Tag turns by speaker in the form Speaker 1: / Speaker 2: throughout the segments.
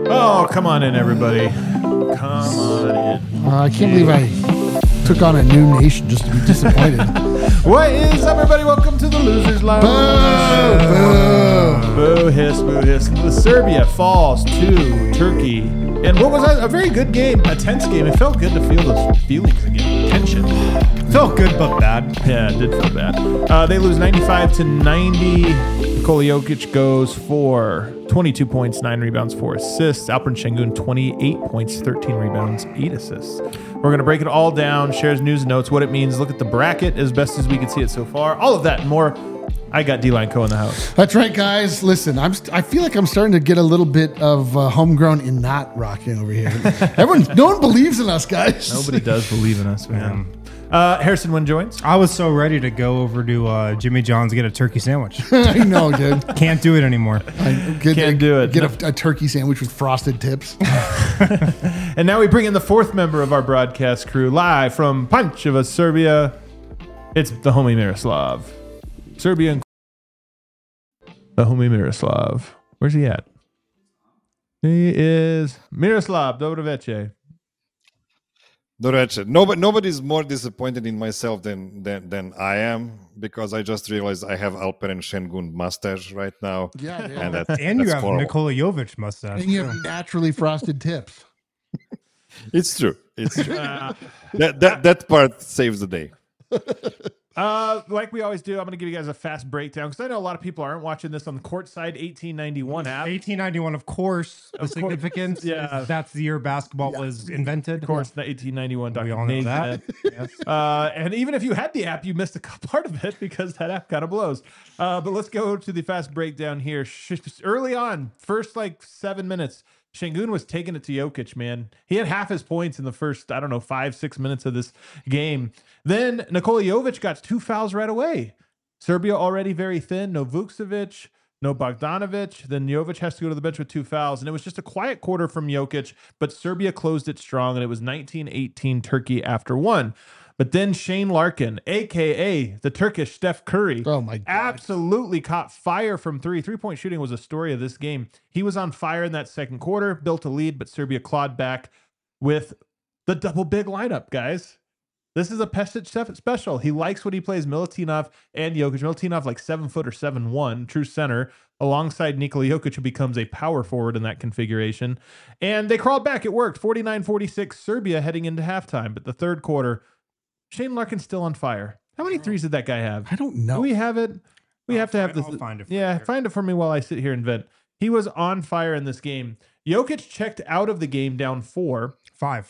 Speaker 1: Oh, come on in, everybody. Come on in.
Speaker 2: I can't believe I took on a new nation just to be disappointed.
Speaker 1: What is up, everybody? Welcome to the Losers Lounge.
Speaker 2: Boo!
Speaker 1: Boo, hiss, boo, hiss. The Serbia falls to Turkey. And what was that? A very good game, a tense game. It felt good to feel those feelings again. Tension.
Speaker 3: Felt good, but bad.
Speaker 1: Yeah, it did feel bad. They lose 95-90. Nikola Jokic goes for 22 points, 9 rebounds, 4 assists. Alperen Şengün, 28 points, 13 rebounds, 8 assists. We're going to break it all down, shares news and notes, what it means, look at the bracket as best as we can see it so far. All of that and more. I got D-Line Co in the house.
Speaker 2: That's right, guys. Listen, I feel like I'm starting to get a little bit of homegrown in not rocking over here. No one believes in us, guys.
Speaker 1: Nobody does believe in us, man. Harrison Wynn joins.
Speaker 3: I was so ready to go over to Jimmy John's get a turkey sandwich.
Speaker 2: I know, dude.
Speaker 3: Can't do it anymore.
Speaker 1: Can't do it.
Speaker 2: Get a turkey sandwich with frosted tips.
Speaker 1: And now we bring in the fourth member of our broadcast crew, live from Pančeva, Serbia. It's the homie Miroslav. Serbian. The homie Miroslav. Where's he at? He is Miroslav. Dobro večer.
Speaker 4: Nobody's more disappointed in myself than I am, because I just realized I have Alperen Şengün mustache right now.
Speaker 2: Yeah, dude.
Speaker 4: And
Speaker 3: And you
Speaker 4: that's
Speaker 3: have
Speaker 4: horrible.
Speaker 3: Nikola Jovic mustache.
Speaker 2: And you have naturally frosted tips.
Speaker 4: It's true. That part saves the day.
Speaker 1: Like we always do, I'm going to give you guys a fast breakdown because I know a lot of people aren't watching this on the Courtside 1891 app.
Speaker 3: 1891, of course. The significance.
Speaker 1: Yeah.
Speaker 3: Is that's the year basketball was invented.
Speaker 1: Of course, the 1891
Speaker 3: We all know that. Yes.
Speaker 1: And even if you had the app, you missed a part of it because that app kind of blows. But let's go to the fast breakdown here. Early on, first 7 minutes, Şengün was taking it to Jokic, man. He had half his points in the first, 5-6 minutes of this game. Then Nikola Jovic got 2 fouls right away. Serbia already very thin. No Vukcevic, no Bogdanovic. Then Jovic has to go to the bench with 2 fouls. And it was just a quiet quarter from Jokic, but Serbia closed it strong, and it was 19-18 Turkey after 1. But then Shane Larkin, a.k.a. the Turkish Steph Curry,
Speaker 2: Oh, my God.
Speaker 1: absolutely caught fire from 3. 3-point shooting was a story of this game. He was on fire in that second quarter, built a lead, but Serbia clawed back with the double big lineup, guys. This is a Pesic special. He likes what he plays. Milutinov and Jokic. Milutinov 7 foot or 7'1", true center, alongside Nikola Jokic, who becomes a power forward in that configuration. And they crawled back. It worked. 49-46 Serbia heading into halftime. But the third quarter, Shane Larkin's still on fire. How many threes did that guy have?
Speaker 2: I don't know.
Speaker 1: Do we have it? We have to have this.
Speaker 3: I'll find it for you
Speaker 1: Yeah,
Speaker 3: here.
Speaker 1: find it for me while I sit here and vent. He was on fire in this game. Jokic checked out of the game down 4.
Speaker 3: 5.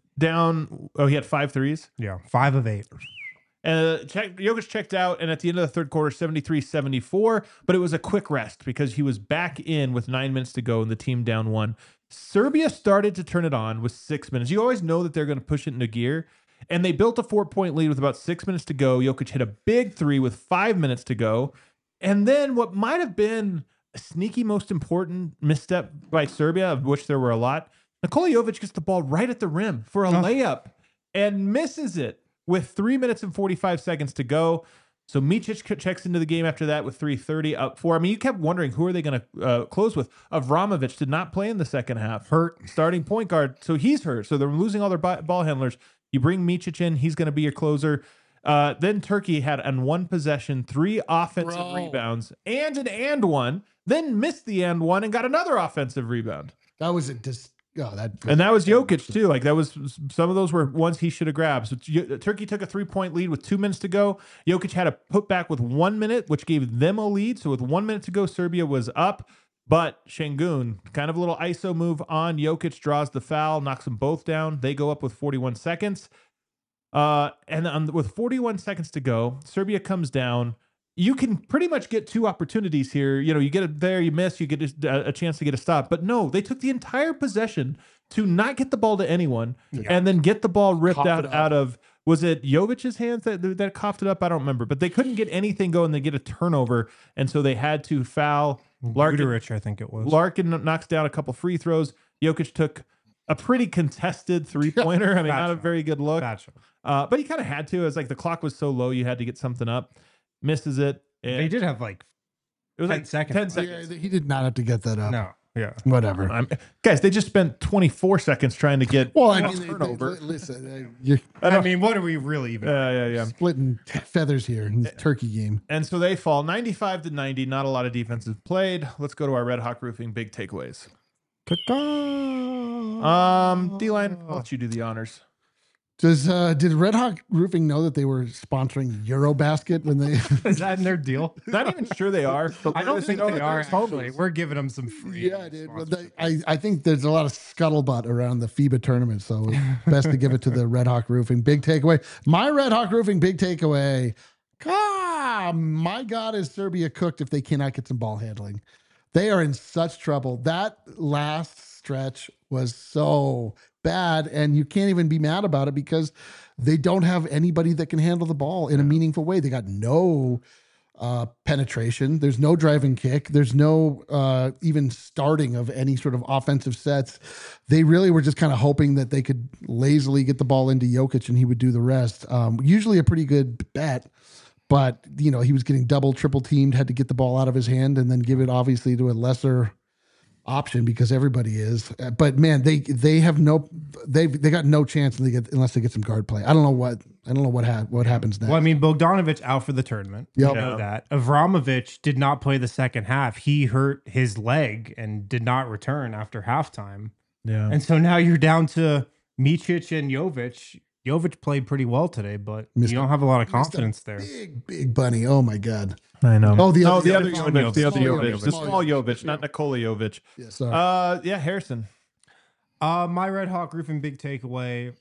Speaker 1: He had 5 threes.
Speaker 3: Yeah, 5 of 8.
Speaker 1: Jokic checked out, and at the end of the third quarter, 73-74, but it was a quick rest because he was back in with 9 minutes to go and the team down 1. Serbia started to turn it on with 6 minutes. You always know that they're going to push it into gear, and they built a 4-point lead with about 6 minutes to go. Jokic hit a big 3 with 5 minutes to go, and then what might have been a sneaky most important misstep by Serbia, of which there were a lot, Nikola Jovic gets the ball right at the rim for a layup and misses it with 3 minutes and 45 seconds to go. So Micic checks into the game after that with 3:30 up 4. I mean, you kept wondering, who are they going to close with? Avramovic did not play in the second half.
Speaker 3: Hurt.
Speaker 1: Starting point guard. So he's hurt. So they're losing all their ball handlers. You bring Micic in. He's going to be your closer. Then Turkey had on one possession 3 offensive rebounds and an and one. Then missed the and one and got another offensive rebound.
Speaker 2: That was
Speaker 1: And that was Jokic too. That was, some of those were ones he should have grabbed. So Turkey took a 3-point lead with 2 minutes to go. Jokic had a put back with 1 minute, which gave them a lead. So with 1 minute to go, Serbia was up. But Şengün, kind of a little ISO move on Jokic, draws the foul, knocks them both down. They go up with 41 seconds. And with 41 seconds to go, Serbia comes down. You can pretty much get 2 opportunities here. You get it there, you miss, you get a chance to get a stop. But no, they took the entire possession to not get the ball to anyone and then get the ball ripped out of, was it Jovic's hands that coughed it up? I don't remember. But they couldn't get anything going. They get a turnover. And so they had to foul Larkin.
Speaker 3: Guduric, I think it was.
Speaker 1: Larkin knocks down a couple free throws. Jokic took a pretty contested 3-pointer. I mean, not a very good look. But he kind of had to. As the clock was so low, you had to get something up. Misses it.
Speaker 3: They did have
Speaker 1: it was
Speaker 3: 10 seconds.
Speaker 1: 10 seconds.
Speaker 2: Yeah, he did not have to get that up.
Speaker 3: No. Yeah.
Speaker 2: Whatever.
Speaker 1: Guys, they just spent 24 seconds trying to get
Speaker 2: Well,
Speaker 1: turnover.
Speaker 2: listen, you're
Speaker 3: I mean, what are we really even?
Speaker 1: Yeah.
Speaker 2: splitting feathers here in this turkey game.
Speaker 1: And so they fall 95-90. Not a lot of defenses played. Let's go to our Red Hawk Roofing big takeaways. D-Line, I'll let you do the honors.
Speaker 2: Did Red Hawk Roofing know that they were sponsoring Eurobasket when they?
Speaker 3: Is that in their deal?
Speaker 1: Not even sure they are. But
Speaker 3: I don't think
Speaker 1: know
Speaker 3: they
Speaker 1: that
Speaker 3: are.
Speaker 1: they're
Speaker 3: Actually, we're giving them some free.
Speaker 2: Yeah, dude. Well, I think there's a lot of scuttlebutt around the FIBA tournament, so it's best to give it to the Red Hawk Roofing big takeaway. My Red Hawk Roofing big takeaway. My God, is Serbia cooked if they cannot get some ball handling? They are in such trouble. That last stretch was so bad, and you can't even be mad about it because they don't have anybody that can handle the ball in a meaningful way. They got no penetration. There's no driving kick. There's no even starting of any sort of offensive sets. They really were just kind of hoping that they could lazily get the ball into Jokic and he would do the rest. Usually a pretty good bet, but he was getting double, triple teamed, had to get the ball out of his hand and then give it obviously to a lesser option because everybody is. But man, they got no chance unless they get some guard play. I don't know what happens next.
Speaker 3: Well, I mean, Bogdanovic out for the tournament.
Speaker 2: Yep.
Speaker 3: You know that. Avramovic did not play the second half. He hurt his leg and did not return after halftime.
Speaker 1: Yeah.
Speaker 3: And so now you're down to Micic and Jovic. Jovic played pretty well today, but you don't have a lot of confidence there.
Speaker 2: Big bunny. Oh my God.
Speaker 1: I know.
Speaker 2: Oh, the other
Speaker 1: Jovic. The other
Speaker 2: Small
Speaker 1: Jovic.
Speaker 2: Jovic.
Speaker 1: The small Jovic, not Nikola Jovic.
Speaker 2: Yeah, sorry.
Speaker 1: Yeah, Harrison.
Speaker 3: My Red Hawk Roofing big takeaway.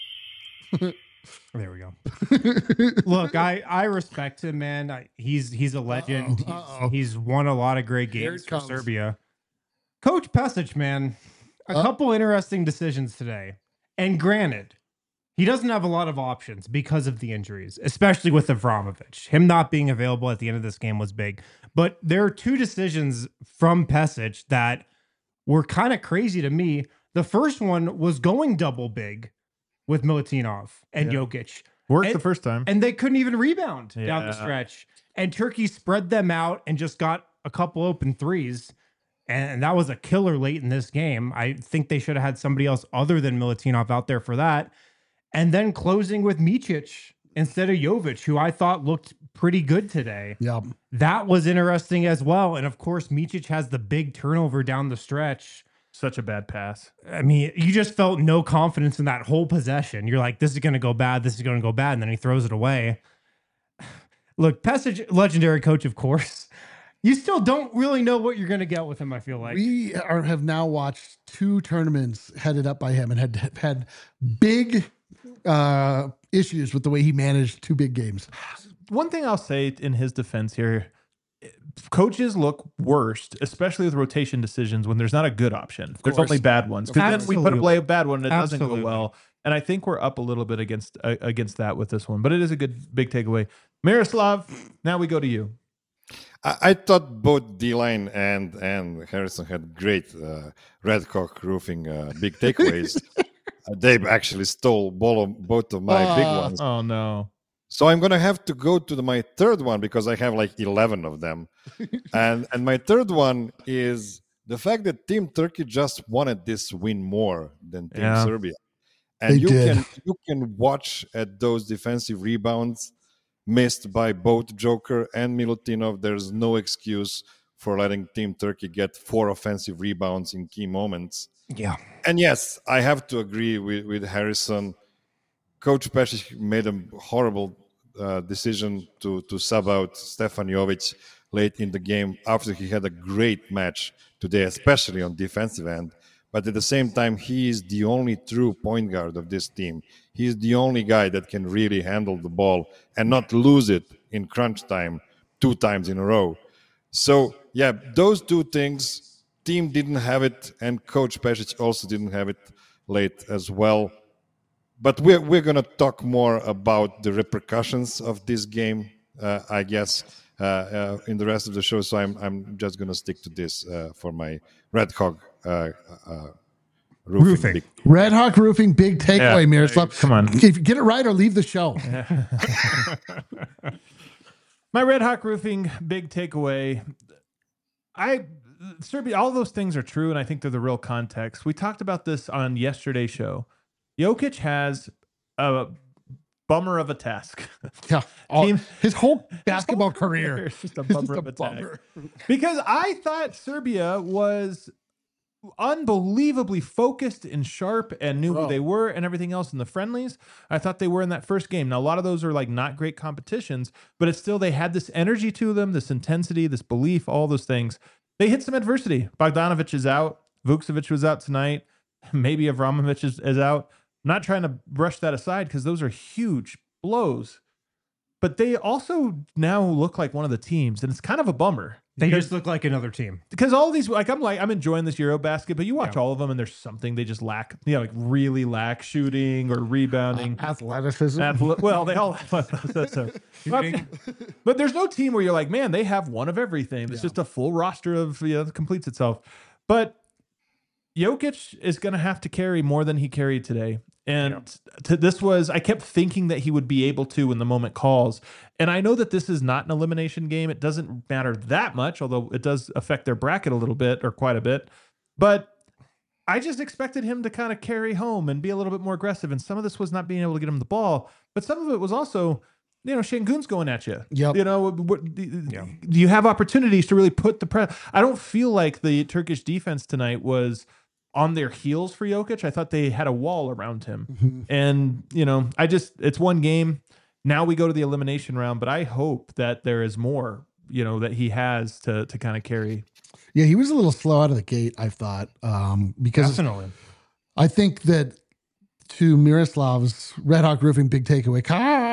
Speaker 3: There we go. Look, I respect him, man. He's a legend. He's won a lot of great games for Serbia. Coach Pesic, man, a couple interesting decisions today. And granted, he doesn't have a lot of options because of the injuries, especially with Avramovic. Him not being available at the end of this game was big. But there are two decisions from Pesic that were kind of crazy to me. The first one was going double big with Milutinov and Jokic.
Speaker 1: Worked the first time.
Speaker 3: And they couldn't even rebound down the stretch. And Turkey spread them out and just got a couple open threes. And that was a killer late in this game. I think they should have had somebody else other than Milutinov out there for that. And then closing with Micic instead of Jovic, who I thought looked pretty good today.
Speaker 2: Yeah.
Speaker 3: That was interesting as well. And of course, Micic has the big turnover down the stretch.
Speaker 1: Such a bad pass.
Speaker 3: I mean, you just felt no confidence in that whole possession. You're like, this is going to go bad. This is going to go bad. And then he throws it away. Look, Pesic, legendary coach, of course. You still don't really know what you're going to get with him, I feel like.
Speaker 2: We have now watched 2 tournaments headed up by him and had big issues with the way he managed 2 big games.
Speaker 1: One thing I'll say in his defense here, coaches look worst, especially with rotation decisions when there's not a good option. There's only bad ones. Because then we put a bad one and it doesn't go well. And I think we're up a little bit against that with this one. But it is a good big takeaway. Miroslav, now we go to you.
Speaker 4: I thought both D-Line and Harrison had great Red Hawk Roofing big takeaways. They actually stole both of my big ones.
Speaker 1: Oh, no.
Speaker 4: So I'm going to have to go to my third one because I have like 11 of them. and my third one is the fact that Team Turkey just wanted this win more than Team Serbia. And you can watch at those defensive rebounds missed by both Joker and Milutinov. There's no excuse for letting Team Turkey get 4 offensive rebounds in key moments.
Speaker 3: Yeah.
Speaker 4: And yes, I have to agree with Harrison. Coach Pesic made a horrible decision to sub out Stefan Jovic late in the game after he had a great match today, especially on defensive end. But at the same time, he is the only true point guard of this team. He is the only guy that can really handle the ball and not lose it in crunch time 2 times in a row. So, yeah, those 2 things, team didn't have it, and Coach Pesic also didn't have it late as well. But we're going to talk more about the repercussions of this game, I guess, in the rest of the show. So I'm just going to stick to this for my Red Hawk roofing.
Speaker 2: Red Hawk Roofing big takeaway, Miroslav.
Speaker 1: Come on.
Speaker 2: Get it right or leave the show.
Speaker 1: My Red Hawk Roofing big takeaway. Serbia, all those things are true, and I think they're the real context. We talked about this on yesterday's show. Jokic has a bummer of a task.
Speaker 2: Yeah, his whole basketball career
Speaker 1: is just a bummer of a task. Because I thought Serbia was unbelievably focused and sharp and knew who they were and everything else in the friendlies. I thought they were in that first game. Now, a lot of those are like not great competitions, but it's still, they had this energy to them, this intensity, this belief, all those things. They hit some adversity. Bogdanovic is out. Vukcevic was out tonight. Maybe Avramovic is out. I'm not trying to brush that aside because those are huge blows. But they also now look like one of the teams, and it's kind of a bummer.
Speaker 3: They just look like another team.
Speaker 1: Because all these, I'm enjoying this Eurobasket, but you watch all of them, and there's something they just lack. Like really lack shooting or rebounding,
Speaker 2: athleticism.
Speaker 1: Well, they all have athleticism. But there's no team where you're like, man, they have one of everything. It's just a full roster of that completes itself. But Jokic is going to have to carry more than he carried today. And I kept thinking that he would be able to when the moment calls. And I know that this is not an elimination game. It doesn't matter that much, although it does affect their bracket a little bit or quite a bit. But I just expected him to kind of carry home and be a little bit more aggressive. And some of this was not being able to get him the ball, but some of it was also, Şengün's going at you.
Speaker 2: Yep.
Speaker 1: Do you have opportunities to really put the press? I don't feel like the Turkish defense tonight was on their heels for Jokic. I thought they had a wall around him. Mm-hmm. And, it's one game. Now we go to the elimination round, but I hope that there is more, that he has to kind of carry.
Speaker 2: Yeah, he was a little slow out of the gate, I thought, because
Speaker 3: definitely.
Speaker 2: I think that to Miroslav's Red Hawk Roofing big takeaway,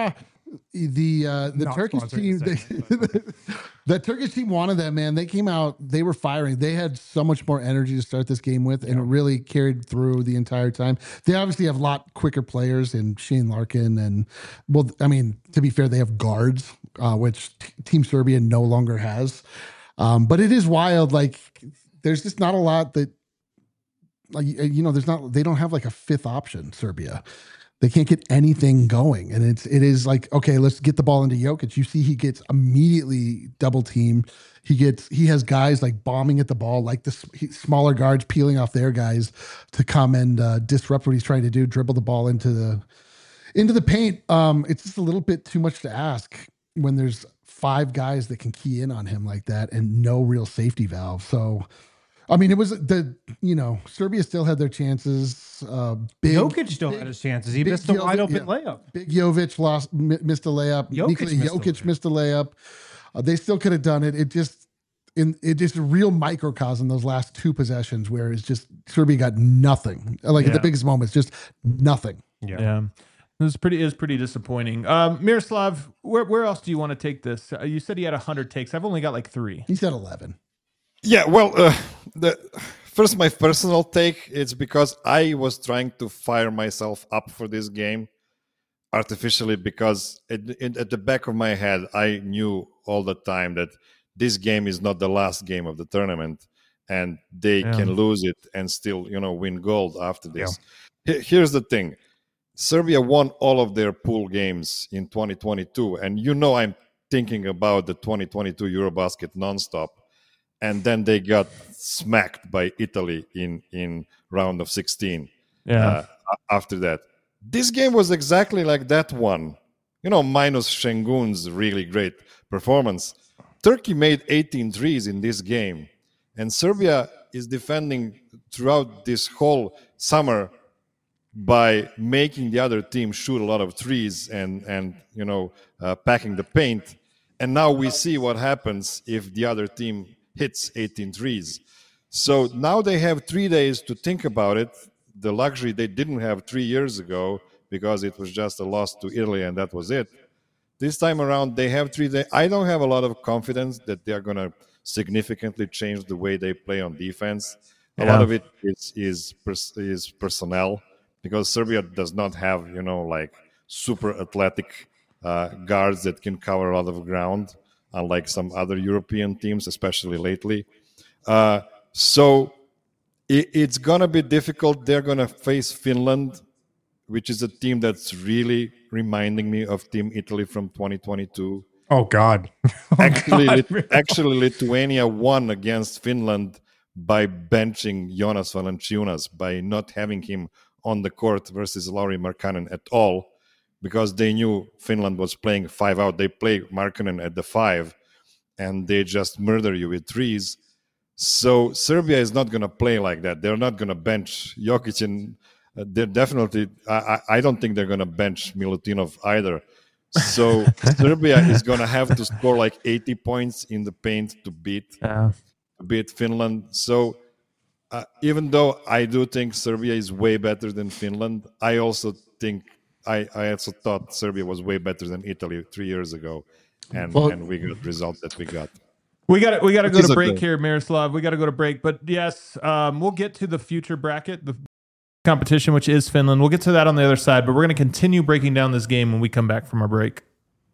Speaker 2: the Turkish team, the Turkish team wanted that, man. They came out, they were firing. They had so much more energy to start this game with, and it really carried through the entire time. They obviously have a lot quicker players in Shane Larkin, and to be fair, they have guards, which Team Serbia no longer has. But it is wild. Like, there's just not a lot that, they don't have like a fifth option, Serbia. They can't get anything going. And it is like, okay, let's get the ball into Jokic. You see he gets immediately double teamed. He has guys like bombing at the ball, like the smaller guards peeling off their guys to come and disrupt what he's trying to do, dribble the ball into the paint. It's just a little bit too much to ask when there's 5 guys that can key in on him like that and no real safety valve. So, it was Serbia still had their chances.
Speaker 3: Jokic still had his chances. He missed a wide open layup.
Speaker 2: Big Jovic missed a layup. Jokic missed a layup. They still could have done it. It just a real microcosm those last 2 possessions where it's just Serbia got nothing. At the biggest moments, just nothing.
Speaker 1: Yeah. It was pretty disappointing. Miroslav, where else do you want to take this? You said he had 100 takes. I've only got like 3.
Speaker 2: He said 11.
Speaker 4: Yeah, well, first, my personal take, it's because I was trying to fire myself up for this game artificially because at the back of my head, I knew all the time that this game is not the last game of the tournament and they can lose it and still, win gold after this. Yeah. Here's the thing. Serbia won all of their pool games in 2022, and I'm thinking about the 2022 Eurobasket nonstop. And then they got smacked by Italy in round of 16. After that, this game was exactly like that one. Minus Şengün's really great performance. Turkey made 18 threes in this game, and Serbia is defending throughout this whole summer by making the other team shoot a lot of threes and packing the paint. And now we see what happens if the other team hits 18 threes. So now they have 3 days to think about it, the luxury they didn't have 3 years ago because it was just a loss to Italy and that was it. This time around, they have 3 days. I don't have a lot of confidence that they're going to significantly change the way they play on defense. A lot of it is personnel because Serbia does not have, super athletic guards that can cover a lot of ground, unlike some other European teams, especially lately. So it's going to be difficult. They're going to face Finland, which is a team that's really reminding me of Team Italy from 2022.
Speaker 3: Oh God!
Speaker 4: Actually, Lithuania won against Finland by benching Jonas Valanciunas, by not having him on the court versus Lauri Markkanen at all, because they knew Finland was playing 5 out. They play Markkanen at the 5, and they just murder you with threes. So Serbia is not going to play like that. They're not going to bench Jokic, and they're definitely. I don't think they're going to bench Milutinov either. So Serbia is going to have to score like 80 points in the paint to beat Finland. So even though I do think Serbia is way better than Finland, I also think I also thought Serbia was way better than Italy 3 years ago, and we got the result that we got.
Speaker 1: We got to go to break here, Miroslav. We got to go to break, but yes, we'll get to the future bracket, the competition, which is Finland. We'll get to that on the other side, but we're going to continue breaking down this game when we come back from our break.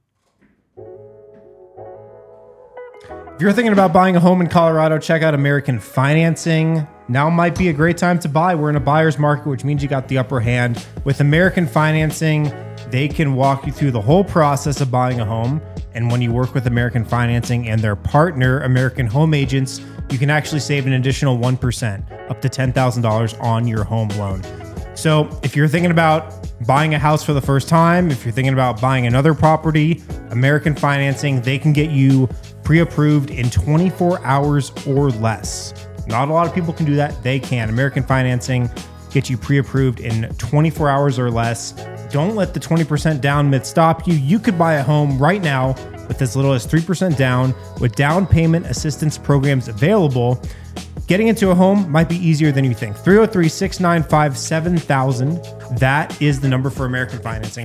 Speaker 3: If you're thinking about buying a home in Colorado, check out American Financing. Now might be a great time to buy. We're in a buyer's market, which means you got the upper hand. With American Financing, they can walk you through the whole process of buying a home. And when you work with American Financing and their partner, American Home Agents, you can actually save an additional 1%, up to $10,000 on your home loan. So if you're thinking about buying a house for the first time, if you're thinking about buying another property, American Financing, they can get you pre-approved in 24 hours or less. Not a lot of people can do that. They can. American Financing gets you pre-approved in 24 hours or less. Don't let the 20% down myth stop you. You could buy a home right now with as little as 3% down with down payment assistance programs available. Getting into a home might be easier than you think. 303-695-7000. That is the number for American Financing.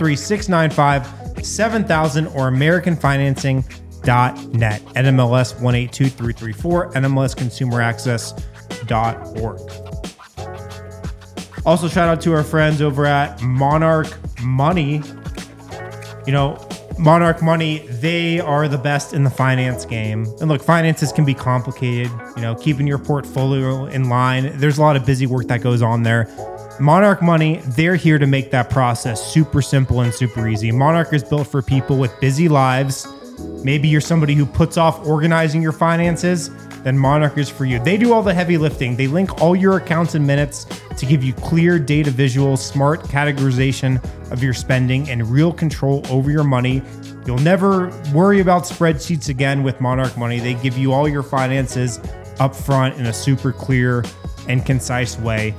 Speaker 3: 303-695-7000 or AmericanFinancing.net. NMLS 182334, NMLSConsumerAccess.org. Also, shout out to our friends over at Monarch Money. You know, Monarch Money, they are the best in the finance game. And look, finances can be complicated, you know, keeping your portfolio in line. There's a lot of busy work that goes on there. Monarch Money, they're here to make that process super simple and super easy. Monarch is built for people with busy lives. Maybe you're somebody who puts off organizing your finances, then Monarch is for you. They do all the heavy lifting. They link all your accounts and minutes to give you clear data visuals, smart categorization of your spending, and real control over your money. You'll never worry about spreadsheets again with Monarch Money. They give you all your finances up front in a super clear and concise way.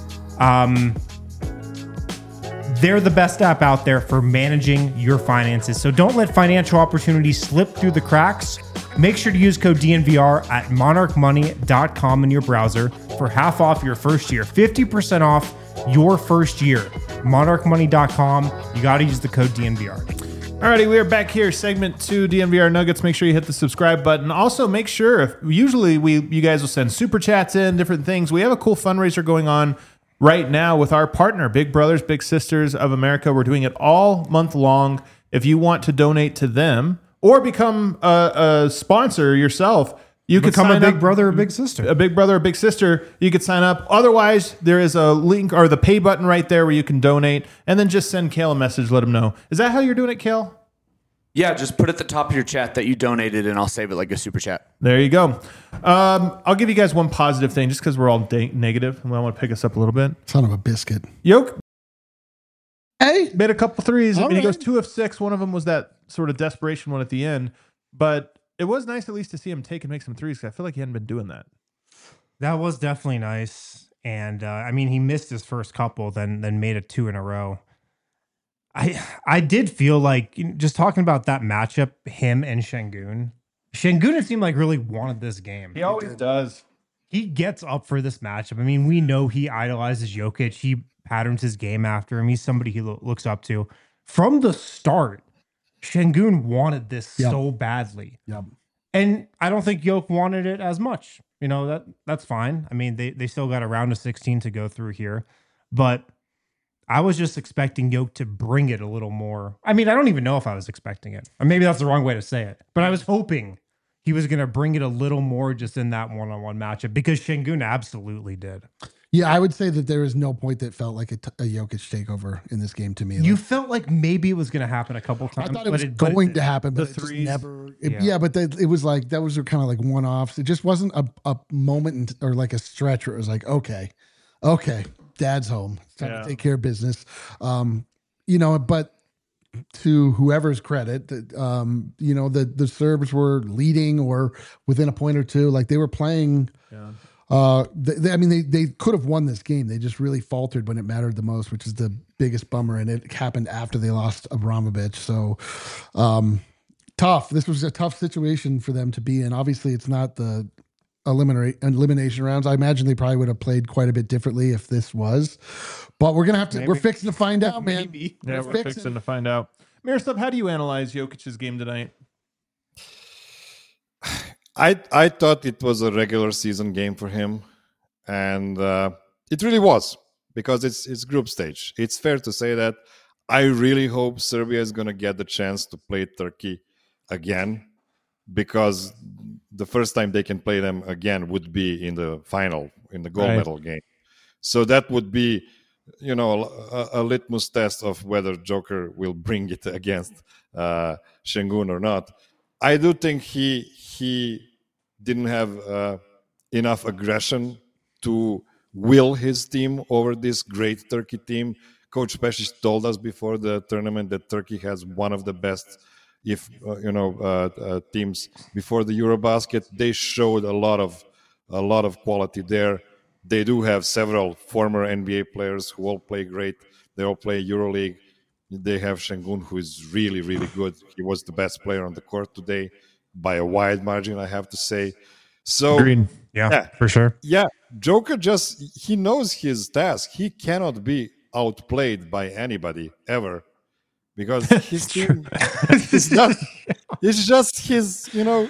Speaker 3: They're the best app out there for managing your finances. So don't let financial opportunities slip through the cracks. Make sure to use code DNVR at monarchmoney.com in your browser for half off your first year, 50% off your first year. Monarchmoney.com. You got to use the code DNVR.
Speaker 1: Alrighty, we are back here, segment 2, DNVR Nuggets. Make sure you hit the subscribe button. Also, make sure, usually you guys will send super chats in, different things. We have a cool fundraiser going on right now with our partner, Big Brothers Big Sisters of America. We're doing it all month long. If you want to donate to them or become a sponsor yourself, you could
Speaker 3: become
Speaker 1: sign
Speaker 3: a big
Speaker 1: up,
Speaker 3: brother or big sister.
Speaker 1: A big brother or big sister. You could sign up. Otherwise, there is a link or the pay button right there where you can donate, and then just send Kale a message. Let him know. Is that how you're doing it, Kale?
Speaker 5: Yeah, just put at the top of your chat that you donated, and I'll save it like a super chat.
Speaker 1: There you go. I'll give you guys one positive thing, just because we're all negative, and I want to pick us up a little bit.
Speaker 2: Son of a biscuit.
Speaker 1: Yoke
Speaker 2: Hey,
Speaker 1: made a couple threes.
Speaker 2: All
Speaker 1: He
Speaker 2: right.
Speaker 1: goes 2 of 6. One of them was that sort of desperation one at the end, but it was nice at least to see him take and make some threes, because I feel like he hadn't been doing that.
Speaker 3: That was definitely nice. And I mean, he missed his first couple, then made it 2 in a row. I did feel like, just talking about that matchup, him and Şengün. Şengün, it seemed like, really wanted this game.
Speaker 1: He always does.
Speaker 3: He gets up for this matchup. I mean, we know he idolizes Jokic. He patterns his game after him. He's somebody he looks up to. From the start, Şengün wanted this so badly.
Speaker 2: Yep.
Speaker 3: And I don't think Jokic wanted it as much. You know, that's fine. I mean, they still got a round of 16 to go through here. But I was just expecting Jokic to bring it a little more. I mean, I don't even know if I was expecting it. Or maybe that's the wrong way to say it. But I was hoping he was going to bring it a little more just in that one-on-one matchup, because Şengün absolutely did.
Speaker 2: Yeah, I would say that there is no point that felt like a Jokic takeover in this game to me.
Speaker 3: You
Speaker 2: Like,
Speaker 3: felt like maybe it was going to happen a couple times.
Speaker 2: I thought it was
Speaker 3: but
Speaker 2: going to happen, but
Speaker 1: the
Speaker 2: it just
Speaker 1: threes.
Speaker 2: never.
Speaker 3: Yeah.
Speaker 2: But it was like those were kind of like one-offs. It just wasn't a moment or like a stretch where it was like, okay, Dad's home. It's time
Speaker 1: Yeah.
Speaker 2: to take care of business. But to whoever's credit, the Serbs were leading or within a point or two. Like they were playing.
Speaker 1: Yeah.
Speaker 2: They could have won this game. They just really faltered when it mattered the most, which is the biggest bummer. And it happened after they lost Abramovich. So tough. This was a tough situation for them to be in. Obviously, it's not the elimination rounds. I imagine they probably would have played quite a bit differently if this was. But we're gonna have to.
Speaker 3: Maybe.
Speaker 2: We're fixing to find out, man.
Speaker 3: Maybe.
Speaker 1: Yeah, we're fixing to find out. Miroslav, how do you analyze Jokic's game tonight?
Speaker 4: I thought it was a regular season game for him, and it really was because it's group stage. It's fair to say that. I really hope Serbia is going to get the chance to play Turkey again, because the first time they can play them again would be in the final, in the gold medal game. So that would be, a litmus test of whether Joker will bring it against Şengün or not. I do think he didn't have enough aggression to will his team over this great Turkey team. Coach Pešić told us before the tournament that Turkey has one of the best, teams before the Eurobasket. They showed a lot of quality there. They do have several former NBA players who all play great. They all play EuroLeague. They have Şengün, who is really, really good. He was the best player on the court today by a wide margin, I have to say. So,
Speaker 1: Agreed.
Speaker 3: Yeah, for sure.
Speaker 4: Yeah, Joker he knows his task. He cannot be outplayed by anybody ever, because his team it's just his,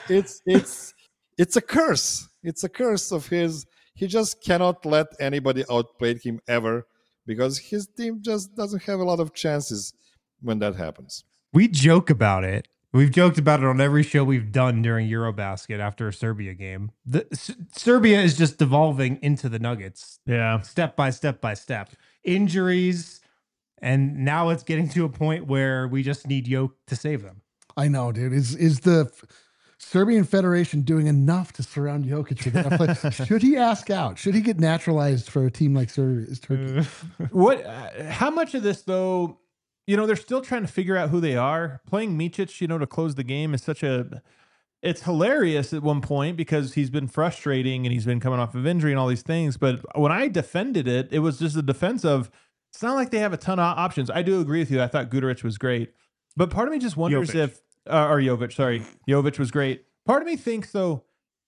Speaker 4: it's a curse. It's a curse of his. He just cannot let anybody outplay him ever, because his team just doesn't have a lot of chances when that happens.
Speaker 3: We joke about it. We've joked about it on every show we've done during Eurobasket after a Serbia game. Serbia is just devolving into the Nuggets.
Speaker 1: Yeah.
Speaker 3: Step by step by step. Injuries, and now it's getting to a point where we just need Jokic to save them.
Speaker 2: I know, dude. Is the Serbian Federation doing enough to surround Jokic for that play? Should he ask out? Should he get naturalized for a team like Turkey?
Speaker 1: How much of this, though, they're still trying to figure out who they are. Playing Micic, to close the game is it's hilarious at one point because he's been frustrating and he's been coming off of injury and all these things. But when I defended it, it was just a defense of, it's not like they have a ton of options. I do agree with you. I thought Guduric was great. But part of me just wonders Jovic was great. Part of me thinks, though,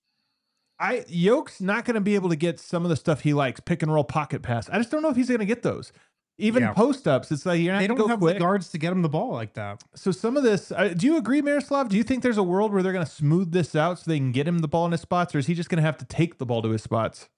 Speaker 1: Jokic's not going to be able to get some of the stuff he likes, pick and roll, pocket pass. I just don't know if he's going to get those. Even post-ups, it's like you're not.
Speaker 3: They don't have the guards to get him the ball like that.
Speaker 1: So some of this, do you agree, Miroslav? Do you think there's a world where they're going to smooth this out so they can get him the ball in his spots, or is he just going to have to take the ball to his spots?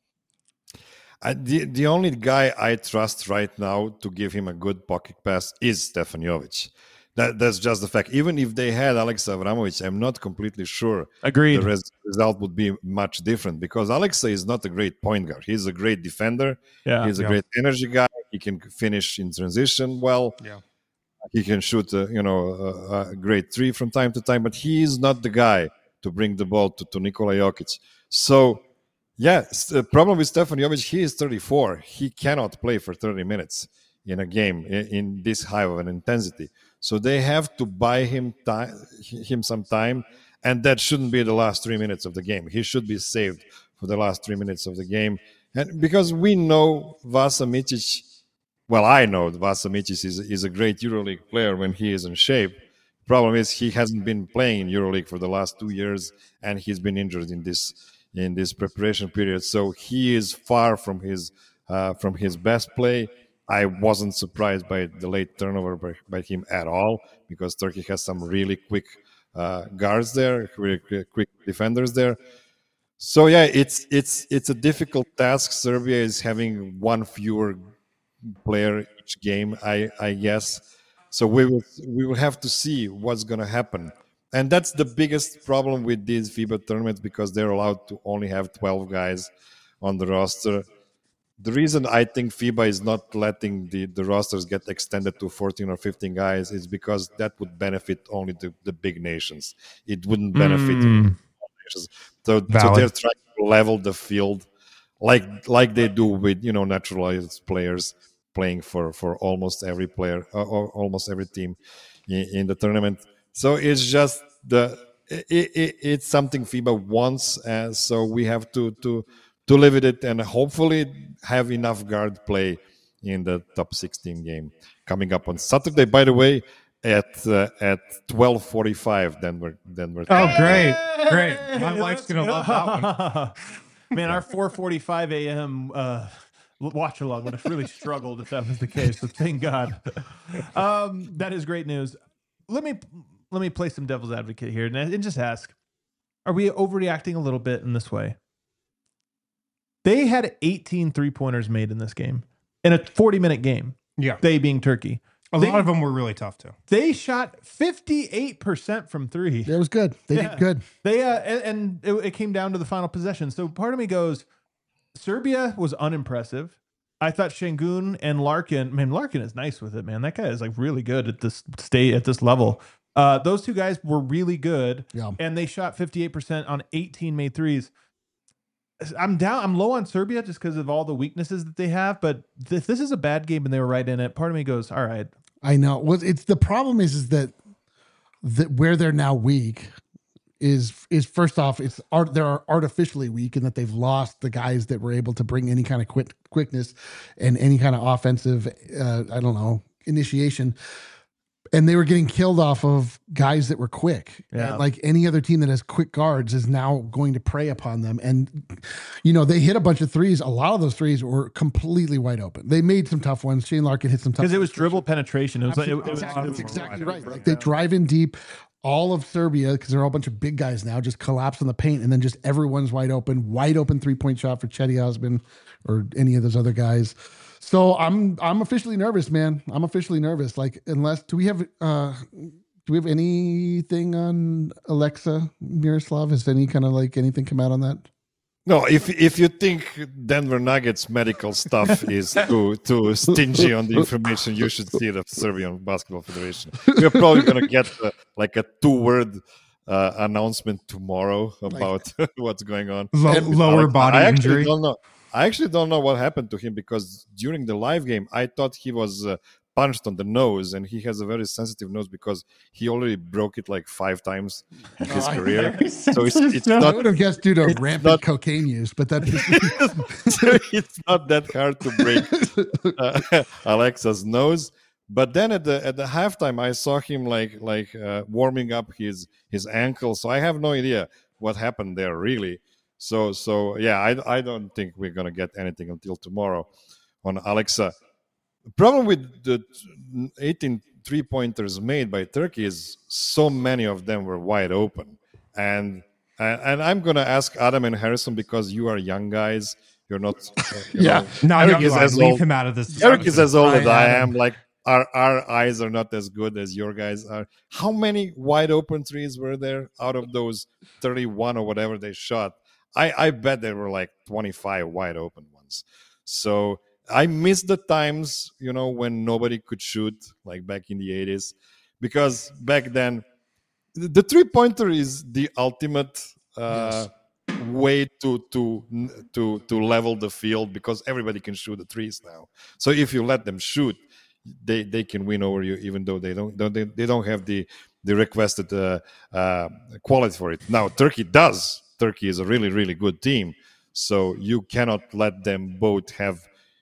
Speaker 4: The only guy I trust right now to give him a good pocket pass is Stefan Jovic. That's just the fact. Even if they had Alexa Avramovic, I'm not completely sure.
Speaker 1: Agreed.
Speaker 4: The result would be much different, because Alexa is not a great point guard. He's a great defender.
Speaker 1: Yeah,
Speaker 4: he's a great energy guy. He can finish in transition well.
Speaker 3: Yeah.
Speaker 4: He can shoot, a great three from time to time, but he is not the guy to bring the ball to Nikola Jokic. So, the problem with Stefan Jovic, he is 34. He cannot play for 30 minutes in a game in this high of an intensity. So they have to buy him some time, and that shouldn't be the last 3 minutes of the game. He should be saved for the last 3 minutes of the game. And because we know Vasa Micic, well, I know Vasa Micic is a great EuroLeague player when he is in shape. Problem is he hasn't been playing in EuroLeague for the last 2 years, and he's been injured in this preparation period. So he is far from his best play. I wasn't surprised by the late turnover by him at all, because Turkey has some really quick guards there, really quick defenders there. So it's a difficult task. Serbia is having one fewer player each game, I guess. So we will have to see what's going to happen. And that's the biggest problem with these FIBA tournaments, because they're allowed to only have 12 guys on the roster. the reason I think FIBA is not letting the rosters get extended to 14 or 15 guys is because that would benefit only the big nations. It wouldn't benefit nations. So they're trying to level the field like they do with naturalized players playing for almost every player or almost every team in the tournament. So it's just it's something FIBA wants, and so we have to live with it and hopefully have enough guard play in the top 16 game coming up on Saturday. By the way, at 12:45, Denver.
Speaker 3: Oh, great! My wife's gonna love that one.
Speaker 1: Man, our 4:45 a.m. Watch along would have really struggled if that was the case. So thank God. That is great news. Let me play some devil's advocate here and just ask: are we overreacting a little bit in this way? They had 18 3-pointers made in this game, in a 40-minute game.
Speaker 3: Yeah.
Speaker 1: They being Turkey.
Speaker 3: A lot of them were really tough, too.
Speaker 1: They shot 58% from three.
Speaker 2: It was good. They did good.
Speaker 1: They and it came down to the final possession. So part of me goes, Serbia was unimpressive. I thought Şengün and Larkin, man, Larkin is nice with it, man. That guy is like really good at this level. Those two guys were really good.
Speaker 2: Yeah.
Speaker 1: And they shot 58% on 18 made threes. I'm low on Serbia just because of all the weaknesses that they have. But if this is a bad game and they were right in it, part of me goes, all right.
Speaker 2: I know. Well, it's the problem is that where they're now weak is first off, they're artificially weak in that they've lost the guys that were able to bring any kind of quickness and any kind of offensive, initiation. And they were getting killed off of guys that were quick.
Speaker 1: Yeah.
Speaker 2: And like any other team that has quick guards is now going to prey upon them. And, they hit a bunch of threes. A lot of those threes were completely wide open. They made some tough ones. Shane Larkin hit some tough ones.
Speaker 1: Because it was dribble penetration. It was
Speaker 2: That's exactly right. Like they drive in deep. All of Serbia, because they're all a bunch of big guys now, just collapse on the paint, and then just everyone's wide open 3-point shot for Cedi Osman or any of those other guys. So I'm officially nervous, man. I'm officially nervous. Like, do we have anything on Alexa Miroslav? Has any kind of like anything come out on that?
Speaker 4: No, if you think Denver Nuggets medical stuff is too stingy on the information, you should see the Serbian Basketball Federation. We're probably going to get like a 2-word announcement tomorrow about what's going on.
Speaker 3: Lower body injury.
Speaker 4: I actually don't know what happened to him because during the live game, I thought he was punched on the nose, and he has a very sensitive nose because he already broke it like 5 times in his career. So it's not.
Speaker 2: I would have guessed due to rampant cocaine use, but that
Speaker 4: it's not that hard to break Alexa's nose. But then at the halftime, I saw him like warming up his ankle. So I have no idea what happened there really. So yeah, I don't think we're gonna get anything until tomorrow on Alexa. The problem with the 18 3-pointers made by Turkey is so many of them were wide open. And I'm going to ask Adam and Harrison because you are young guys. You're not.
Speaker 3: Eric is as leave him out of this.
Speaker 4: Eric is as old as I am. Like our eyes are not as good as your guys are. How many wide open threes were there out of those 31 or whatever they shot? I bet there were like 25 wide open ones. So I miss the times, when nobody could shoot, like back in the 80s, because back then the 3-pointer is the ultimate way to level the field because everybody can shoot the threes now. So if you let them shoot, they can win over you, even though they don't have the requested quality for it. Now Turkey does. Turkey is a really, really good team, so you cannot let them both have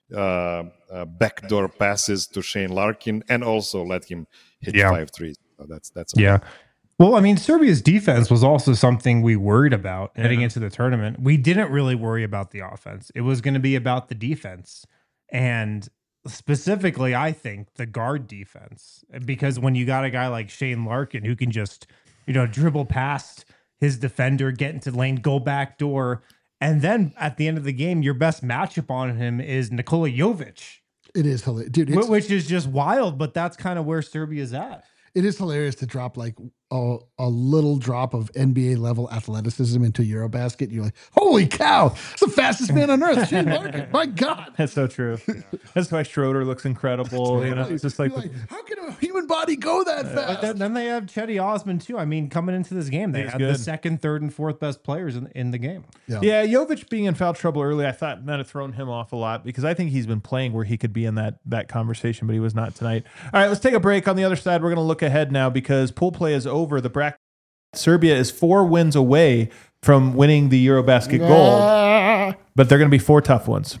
Speaker 4: backdoor passes to Shane Larkin and also let him hit 5 threes. So that's okay.
Speaker 3: Yeah. Well, I mean, Serbia's defense was also something we worried about heading into the tournament. We didn't really worry about the offense. It was going to be about the defense, and specifically, I think the guard defense, because when you got a guy like Shane Larkin who can just dribble past his defender, get into lane, go back door. And then at the end of the game, your best matchup on him is Nikola Jovic.
Speaker 2: It is hilarious. Dude,
Speaker 3: which is just wild, but that's kind of where Serbia's at.
Speaker 2: It is hilarious to drop like a little drop of NBA level athleticism into Eurobasket, you're like, holy cow, it's the fastest man on earth. Shane Larkin, my God.
Speaker 1: That's so true. That's why Schroeder looks incredible. You know, it's just like,
Speaker 2: how can a human body go that fast?
Speaker 3: But then they have Chetty Osman too. I mean, coming into this game, they
Speaker 1: He's
Speaker 3: had
Speaker 1: good.
Speaker 3: the second, third, and fourth best players in the game.
Speaker 1: yeah, Jovic being in foul trouble early, I thought might have thrown him off a lot because I think he's been playing where he could be in that conversation, but he was not tonight. All right, let's take a break. On the other side, we're going to look ahead now because pool play is over. The bracket. Serbia is 4 wins away from winning the Eurobasket gold, but they're going to be 4 tough ones.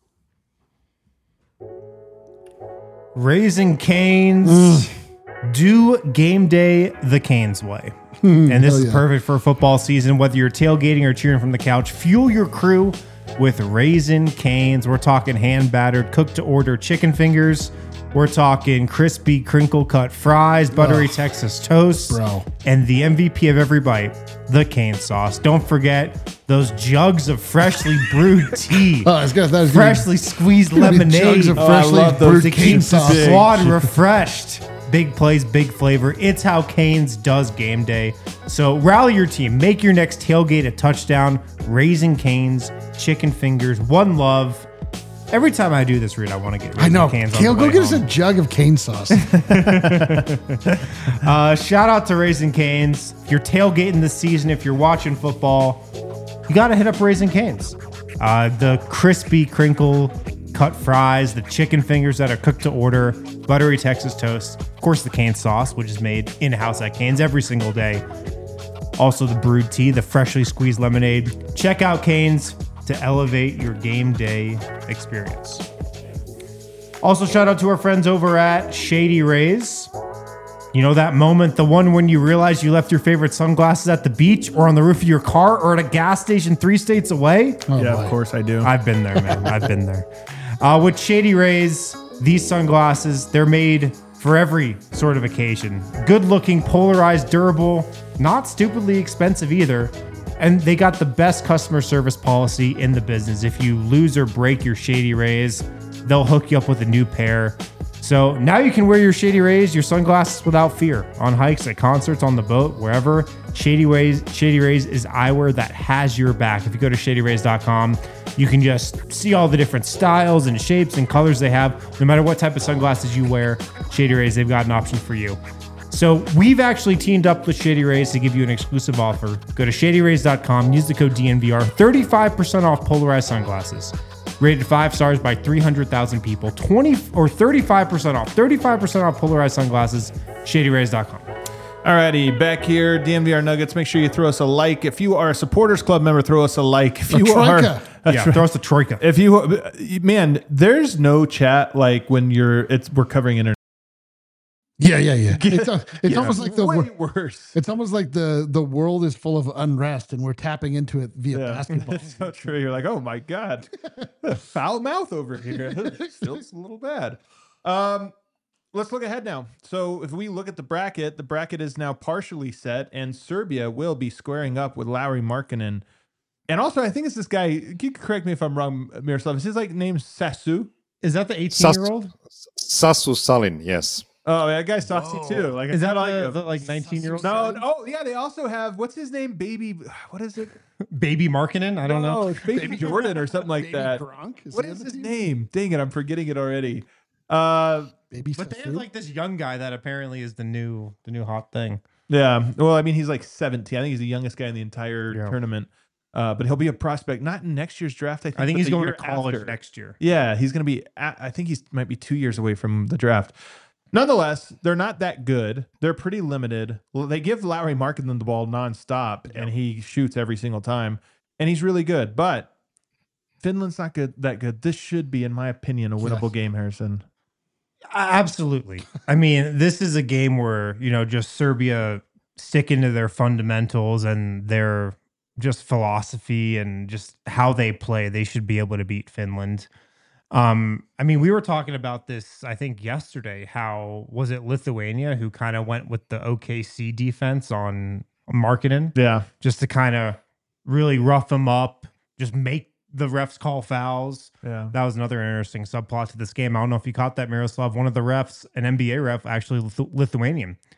Speaker 3: Raising Canes, do game day the Canes way. And this is perfect for football season. Whether you're tailgating or cheering from the couch, fuel your crew with Raising Canes. We're talking hand-battered, cooked-to-order chicken fingers. We're talking crispy, crinkle-cut fries, buttery Texas toast,
Speaker 2: bro.
Speaker 3: And the MVP of every bite, the cane sauce. Don't forget those jugs of freshly brewed tea,
Speaker 2: Oh, I was gonna- that was gonna be-
Speaker 3: freshly squeezed
Speaker 2: gonna be
Speaker 3: lemonade.
Speaker 2: jugs of
Speaker 1: I
Speaker 2: freshly
Speaker 1: love those
Speaker 2: brewed
Speaker 3: to
Speaker 2: cane
Speaker 3: keep the
Speaker 2: sauce.
Speaker 3: squad refreshed. Big plays, big flavor. It's how Canes does game day. So rally your team. Make your next tailgate a touchdown. Raising Canes, chicken fingers, one love. Every time I do this, Reed, I want to get
Speaker 2: I know.
Speaker 3: Canes on
Speaker 2: Kale,
Speaker 3: the
Speaker 2: go
Speaker 3: way
Speaker 2: get us
Speaker 3: home.
Speaker 2: a jug of cane sauce.
Speaker 3: Shout out to Raising Canes. If you're tailgating this season, if you're watching football, you got to hit up Raising Canes. The crispy crinkle cut fries, the chicken fingers that are cooked to order, buttery Texas toast, of course the cane sauce, which is made in-house at Canes every single day. Also the brewed tea, the freshly squeezed lemonade. Check out Canes to elevate your game day experience. Also, shout out to our friends over at Shady Rays. You know that moment, the one when you realize you left your favorite sunglasses at the beach or on the roof of your car or at a gas station 3 states away?
Speaker 2: Oh,
Speaker 1: Yeah,
Speaker 2: boy.
Speaker 1: of course I do.
Speaker 3: I've been there, man. I've been there. With Shady Rays, these sunglasses, they're made for every sort of occasion. Good looking, polarized, durable, not stupidly expensive either. And they got the best customer service policy in the business. If you lose or break your Shady Rays, they'll hook you up with a new pair. So now you can wear your Shady Rays, your sunglasses without fear. On hikes, at concerts, on the boat, wherever. Shady Rays is eyewear that has your back. If you go to shadyrays.com, you can just see all the different styles and shapes and colors they have. No matter what type of sunglasses you wear, Shady Rays, they've got an option for you. So we've actually teamed up with Shady Rays to give you an exclusive offer. Go to shadyrays.com, use the code DNVR, 35% off polarized sunglasses. Rated 5 stars by 300,000 people, 35% off polarized sunglasses, shadyrays.com.
Speaker 1: Alrighty, back here, DNVR Nuggets. Make sure you throw us a like. If you are a Supporters Club member, throw us a like. If you
Speaker 2: troika.
Speaker 3: Yeah, throw us the troika.
Speaker 1: if you, man, there's no chat like when we're covering internet.
Speaker 2: Yeah. It's almost like
Speaker 1: way worse.
Speaker 2: It's almost like the world is full of unrest and we're tapping into it via basketball.
Speaker 1: It's so true. You're like, oh my god, foul mouth over here. Feels a little bad. Let's look ahead now. So if we look at the bracket is now partially set, and Serbia will be squaring up with Lauri Markkanen. And also, I think it's this guy. You can correct me if I'm wrong, Miroslav. Is his name Sasu?
Speaker 3: Is that the 18-year-old?
Speaker 4: Sasu Salin, yes.
Speaker 1: Oh, that guy's saucy too. Like,
Speaker 3: Is that
Speaker 1: the
Speaker 3: 19-year-old?
Speaker 1: No. Oh, yeah. They also have what's his name? Baby. What is it?
Speaker 3: Baby Markkanen? I don't know.
Speaker 1: No, it's Baby Jordan or something like
Speaker 2: Baby
Speaker 1: that.
Speaker 2: Gronk?
Speaker 1: What is his name? Dang it, I'm forgetting it already.
Speaker 2: Baby
Speaker 3: But they have
Speaker 2: Sasu?
Speaker 3: like this young guy that apparently is the new hot thing.
Speaker 1: Yeah. Well, I mean, he's like 17. I think he's the youngest guy in the entire
Speaker 3: Yeah.
Speaker 1: tournament. But he'll be a prospect, not in next year's draft. I think
Speaker 3: I think
Speaker 1: but
Speaker 3: he's
Speaker 1: the
Speaker 3: going to
Speaker 1: year
Speaker 3: college
Speaker 1: after.
Speaker 3: next year.
Speaker 1: Yeah, he's going to be. I think he's might be 2 years away from the draft. Nonetheless, they're not that good. They're pretty limited. Well, they give Lauri Markkanen the ball nonstop, and he shoots every single time, and he's really good. But Finland's not that good. This should be, in my opinion, a winnable game, Harrison.
Speaker 3: Absolutely. I mean, this is a game where, just Serbia sticking to their fundamentals and their just philosophy and just how they play. They should be able to beat Finland. I mean, we were talking about this, I think yesterday, how was it Lithuania who kind of went with the OKC defense on Markkanen
Speaker 1: Yeah.
Speaker 3: just to kind of really rough him up, just make the refs call fouls.
Speaker 1: Yeah.
Speaker 3: That was another interesting subplot to this game. I don't know if you caught that, Miroslav. One of the refs, an NBA ref, actually Lithuanian.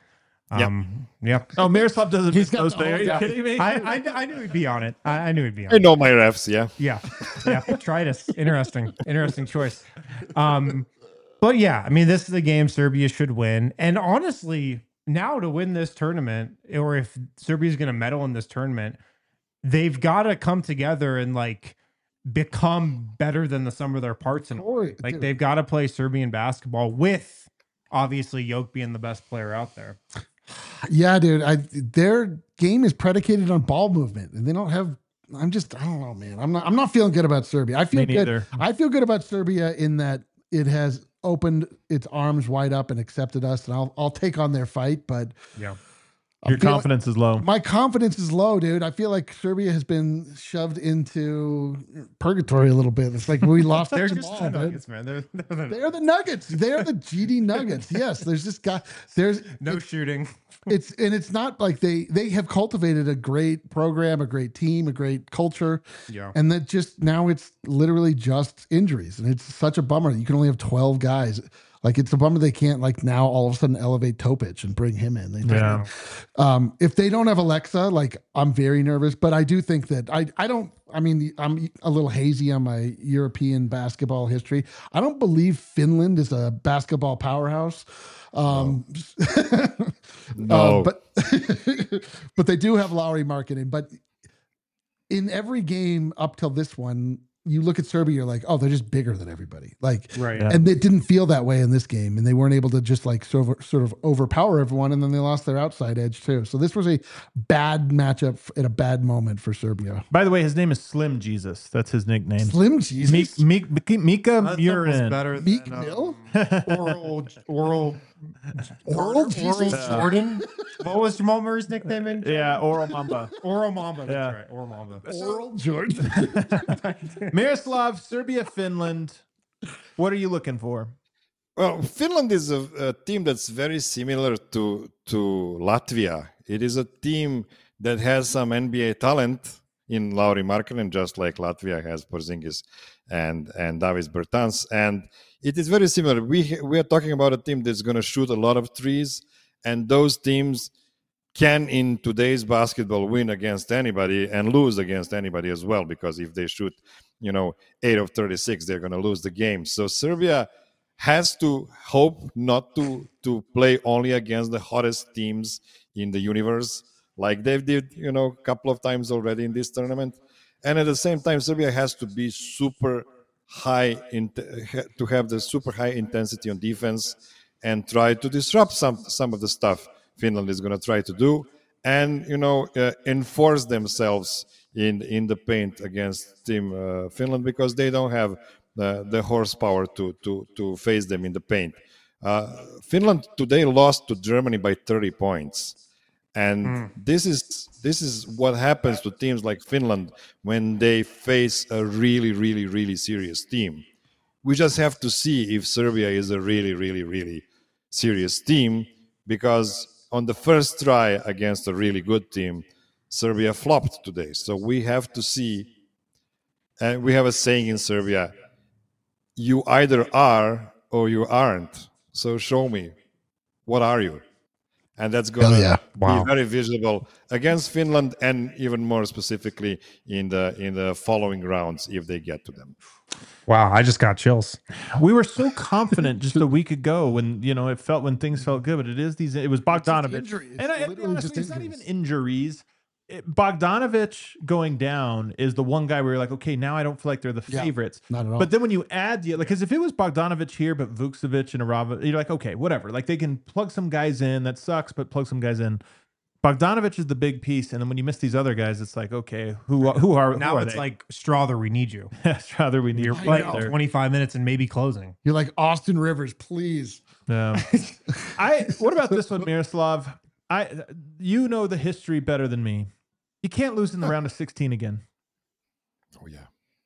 Speaker 3: Yeah.
Speaker 1: Oh, Miroslav doesn't miss
Speaker 2: got
Speaker 1: those
Speaker 2: the
Speaker 1: things. Are
Speaker 2: whole
Speaker 1: you
Speaker 2: guy.
Speaker 1: kidding me?
Speaker 3: I knew he'd be on it. I knew he'd be on
Speaker 4: I
Speaker 3: it.
Speaker 4: know my refs. Yeah.
Speaker 3: Yeah. Try this. Interesting choice. But yeah, I mean, this is a game Serbia should win. And honestly, now to win this tournament, or if Serbia is going to medal in this tournament, they've got to come together and like become better than the sum of their parts. And like
Speaker 2: Dude.
Speaker 3: they've got to play Serbian basketball with obviously Jokic being the best player out there.
Speaker 2: Yeah, dude. Their game is predicated on ball movement, and they don't have. I don't know, man. I'm not feeling good about Serbia. I feel
Speaker 1: Me
Speaker 2: good.
Speaker 1: neither.
Speaker 2: I feel good about Serbia in that it has opened its arms wide up and accepted us, and I'll take on their fight. But
Speaker 3: Yeah.
Speaker 1: Your confidence is low.
Speaker 2: my confidence is low, dude. I feel like Serbia has been shoved into purgatory a little bit. It's like we lost
Speaker 3: They're
Speaker 2: the
Speaker 3: just
Speaker 2: ball,
Speaker 3: the
Speaker 2: dude.
Speaker 3: Nuggets, man.
Speaker 2: They're the Nuggets. They're the GD Nuggets. Yes, there's this guy. There's
Speaker 3: No shooting.
Speaker 2: it's not like they have cultivated a great program, a great team, a great culture.
Speaker 3: Yeah.
Speaker 2: And that just now it's literally just injuries. And it's such a bummer. You can only have 12 guys. Like it's a bummer they can't like now all of a sudden elevate Topic and bring him in.
Speaker 1: Yeah.
Speaker 2: If they don't have Alexa, like I'm very nervous, but I do think that I'm a little hazy on my European basketball history. I don't believe Finland is a basketball powerhouse.
Speaker 4: No.
Speaker 2: But but they do have Lowry marketing. But in every game up till this one, you look at Serbia, you're like, oh, they're just bigger than everybody. Like,
Speaker 3: Right.
Speaker 2: and it didn't feel that way in this game, and they weren't able to just like sort of overpower everyone, and then they lost their outside edge too. So this was a bad matchup at a bad moment for Serbia.
Speaker 1: By the way, his name is Slim Jesus. That's his nickname.
Speaker 2: Slim Jesus,
Speaker 1: Mika
Speaker 3: That
Speaker 1: Murin.
Speaker 3: sounds better
Speaker 2: Meek
Speaker 3: than
Speaker 2: Mill,
Speaker 3: Oral
Speaker 2: Jesus.
Speaker 3: Jordan. What was Jamal Murray's nickname in?
Speaker 1: Yeah, Oral Mamba.
Speaker 3: Oral Mamba. That's
Speaker 1: Yeah.
Speaker 3: right. Oral Mamba.
Speaker 2: Oral Jordan.
Speaker 1: Miroslav, Serbia, Finland. What are you looking for?
Speaker 4: Well, Finland is a team that's very similar to Latvia. It is a team that has some NBA talent in Lauri Markkanen, just like Latvia has Porzingis and Davis Bertans. And it is very similar. We are talking about a team that's going to shoot a lot of threes, and those teams can, in today's basketball, win against anybody and lose against anybody as well, because if they shoot 8 of 36, they're going to lose the game. So Serbia has to hope not to play only against the hottest teams in the universe, like they did, a couple of times already in this tournament. And at the same time, Serbia has to be super high, to have the super high intensity on defense and try to disrupt some of the stuff Finland is going to try to do, and enforce themselves in the paint against Team Finland, because they don't have the horsepower to face them in the paint. Finland today lost to Germany by 30 points, and this is what happens to teams like Finland when they face a really, really, really serious team. We just have to see if Serbia is a really, really, really serious team, because on the first try against a really good team, Serbia flopped today. So we have to see, and we have a saying in Serbia, you either are or you aren't. So show me, what are you? And that's going to be very visible against Finland, and even more specifically in the following rounds if they get to them.
Speaker 3: Wow, I just got chills.
Speaker 1: We were so confident just a week ago when when things felt good, but it was Bogdanovic,
Speaker 2: injury.
Speaker 1: and
Speaker 2: Literally just
Speaker 1: honestly, it's not
Speaker 2: injuries.
Speaker 1: even injuries. Bogdanovic going down is the one guy where you're like, okay, now I don't feel like they're the
Speaker 2: Yeah,
Speaker 1: favorites.
Speaker 2: not at all.
Speaker 1: But then when you add because if it was Bogdanovic here, but Vukcevic and Arava, you're like, okay, whatever. Like they can plug some guys in. That sucks, but plug some guys in. Bogdanovic is the big piece, and then when you miss these other guys, it's like, okay, who are
Speaker 3: Now it's
Speaker 1: they?
Speaker 3: like Strother, we need you.
Speaker 1: rather we need
Speaker 3: You're
Speaker 1: you
Speaker 3: playing
Speaker 1: right there.
Speaker 3: 25 minutes and maybe closing.
Speaker 2: You're like Austin Rivers, please.
Speaker 1: Yeah. What about this one, Miroslav? You know the history better than me. You can't lose in the round of 16 again.
Speaker 4: Oh yeah,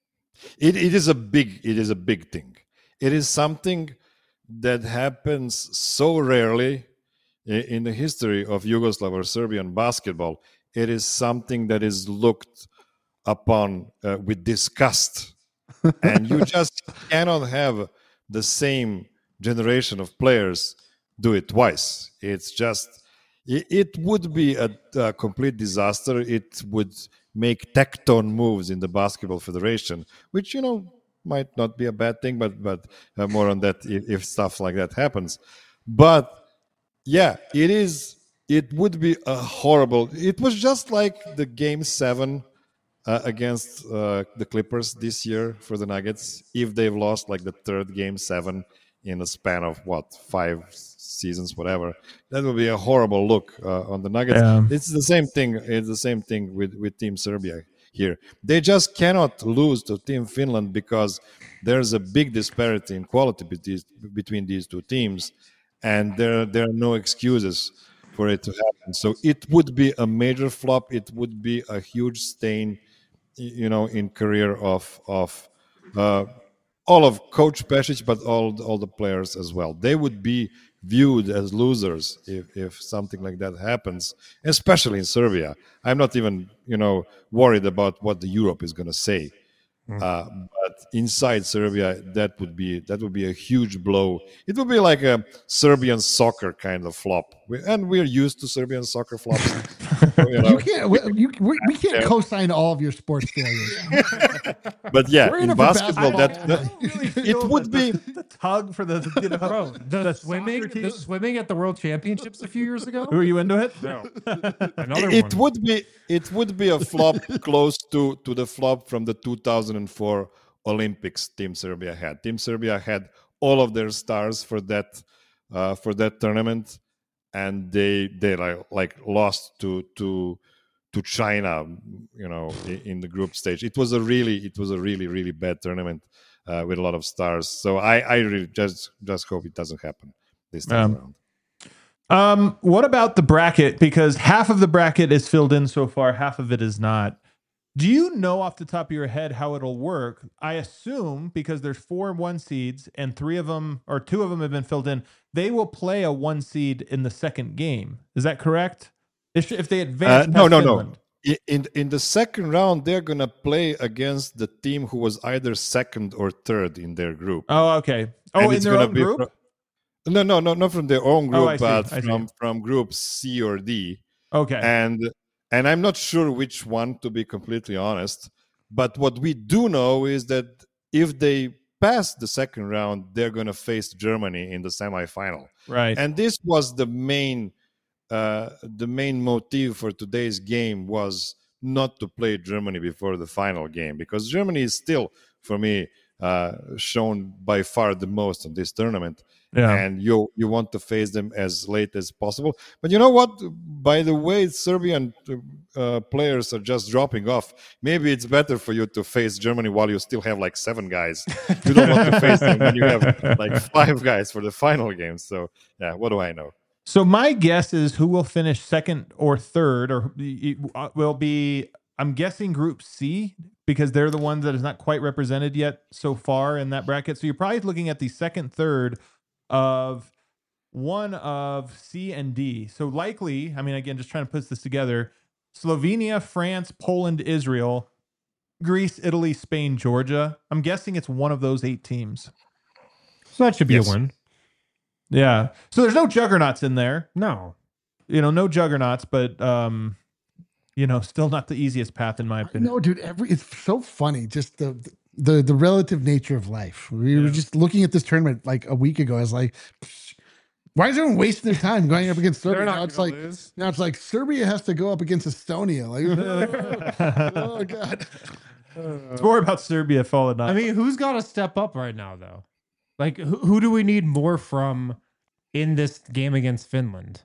Speaker 4: it is a big thing. It is something that happens so rarely in the history of Yugoslav or Serbian basketball. It is something that is looked upon with disgust, and you just cannot have the same generation of players do it twice. It's just, It would be a complete disaster. It would make tectone moves in the Basketball Federation, which might not be a bad thing, but more on that if stuff like that happens. But yeah, it is. It would be a horrible. It was just like the Game 7 against the Clippers this year for the Nuggets. If they've lost like the third Game 7 in a span of 5 seasons, whatever, that would be a horrible look on the Nuggets.
Speaker 1: Yeah.
Speaker 4: It's the same thing. It's the same thing with Team Serbia here. They just cannot lose to Team Finland because there's a big disparity in quality between these two teams, and there are no excuses for it to happen. So it would be a major flop. It would be a huge stain, in career of all of Coach Pešić, but all the players as well. They would be viewed as losers if something like that happens, especially in Serbia. I'm not even worried about what the Europe is going to say. But inside Serbia, that would be a huge blow. It would be like a Serbian soccer kind of flop, and we're used to Serbian soccer flops.
Speaker 2: You can't. We can't co-sign all of your sports failures.
Speaker 4: But yeah,
Speaker 2: We're in
Speaker 4: in
Speaker 2: it for
Speaker 4: basketball,
Speaker 2: basketball.
Speaker 4: it would be.
Speaker 1: the tug for the
Speaker 3: Bro, the swimming,
Speaker 1: soccer team.
Speaker 3: the swimming at the World Championships a few years ago.
Speaker 1: Were you into it?
Speaker 3: No, another
Speaker 4: It
Speaker 3: one.
Speaker 4: would be a flop close to the flop from the 2004 Olympics. Team Serbia had all of their stars for that tournament, and they like lost to China, in the group stage. It was a really bad tournament with a lot of stars. So I really just hope it doesn't happen this time around.
Speaker 1: What about the bracket? Because half of the bracket is filled in so far, half of it is not. Do you know off the top of your head how it'll work? I assume because there's 4 1 seeds and 2 of them have been filled in, they will play a 1 seed in the second game. Is that correct? If they advance,
Speaker 4: No.
Speaker 1: Finland.
Speaker 4: In the second round, they're gonna play against the team who was either second or third in their group.
Speaker 1: Oh, okay.
Speaker 4: And
Speaker 1: Oh, in
Speaker 4: it's
Speaker 1: their
Speaker 4: gonna
Speaker 1: own
Speaker 4: be
Speaker 1: group?
Speaker 4: No, not from their own group,
Speaker 1: I see,
Speaker 4: but
Speaker 1: I see.
Speaker 4: from group C or D.
Speaker 1: Okay.
Speaker 4: And I'm not sure which one, to be completely honest. But what we do know is that if they pass the second round, they're going to face Germany in the semifinal.
Speaker 1: Right.
Speaker 4: And this was the main motive for today's game, was not to play Germany before the final game, because Germany is still, for me, shown by far the most in this tournament.
Speaker 1: Yeah.
Speaker 4: And you want to face them as late as possible. But you know what? By the way, Serbian players are just dropping off. Maybe it's better for you to face Germany while you still have like 7 guys. You don't want to face them when you have like 5 guys for the final game. So yeah, what do I know?
Speaker 1: So my guess is who will finish second or third, or will be, I'm guessing Group C, because they're the ones that is not quite represented yet so far in that bracket. So you're probably looking at the second, third of one of C and D. So likely, I mean, again, just trying to put this together, Slovenia, France, Poland, Israel, Greece, Italy, Spain, Georgia. I'm guessing it's one of those 8 teams.
Speaker 3: So that should be
Speaker 4: Yes.
Speaker 3: a win.
Speaker 1: Yeah. So there's no juggernauts in there.
Speaker 3: No.
Speaker 1: No juggernauts, but still not the easiest path in my opinion.
Speaker 2: No, dude, it's so funny. Just the relative nature of life. We were just looking at this tournament like a week ago. I was like, why is everyone wasting their time going up against Serbia? Now it's like Serbia has to go up against Estonia. Like, oh god.
Speaker 1: It's more about Serbia falling off.
Speaker 3: I mean, who's got to step up right now, though? Like, who do we need more from in this game against Finland?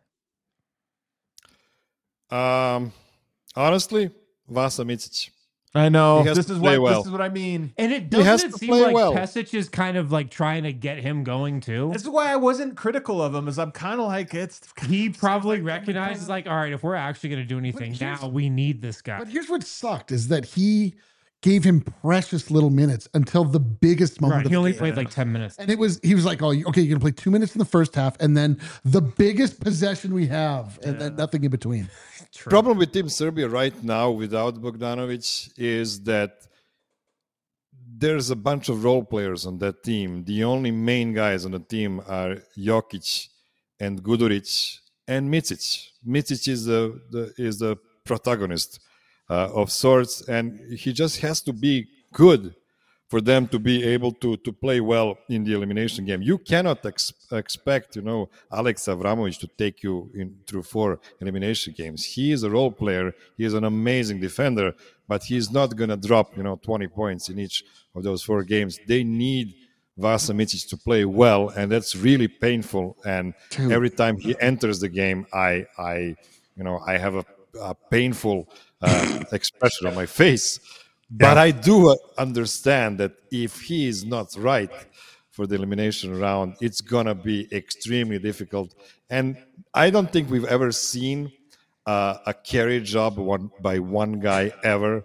Speaker 4: Honestly, Vasa Micic.
Speaker 1: I know.
Speaker 4: He has
Speaker 1: This
Speaker 4: to
Speaker 1: is
Speaker 4: play
Speaker 1: what
Speaker 4: well.
Speaker 1: this is what I mean.
Speaker 3: And it
Speaker 4: He has
Speaker 3: doesn't
Speaker 4: to
Speaker 3: seem
Speaker 4: play
Speaker 3: like
Speaker 4: well.
Speaker 3: Pesic is kind of like trying to get him going too.
Speaker 1: This is why I wasn't critical of him, is I'm kind of like, it's
Speaker 3: He probably recognizes like, all right, if we're actually going to do anything
Speaker 2: here's-
Speaker 3: now, we need this guy.
Speaker 2: But here's what sucked is that he gave him precious little minutes until the biggest moment
Speaker 3: Right,
Speaker 2: of
Speaker 3: he
Speaker 2: the
Speaker 3: only
Speaker 2: game.
Speaker 3: played like 10 minutes.
Speaker 2: And he was like, oh, okay, you're gonna play 2 minutes in the first half, and then the biggest possession we have, and then nothing in between.
Speaker 4: Problem with Team Serbia right now without Bogdanovic is that there's a bunch of role players on that team. The only main guys on the team are Jokic and Guduric, and Micic. Micic is the protagonist of sorts, and he just has to be good for them to be able to play well in the elimination game. You cannot expect, Alex Avramovic to take you through 4 elimination games. He is a role player. He is an amazing defender, but he's not going to drop, 20 points in each of those 4 games. They need Vasa Micic to play well, and that's really painful. And every time he enters the game, I have a painful expression on my face. But I do understand that if he is not right for the elimination round, it's going to be extremely difficult. And I don't think we've ever seen a carry job by one guy ever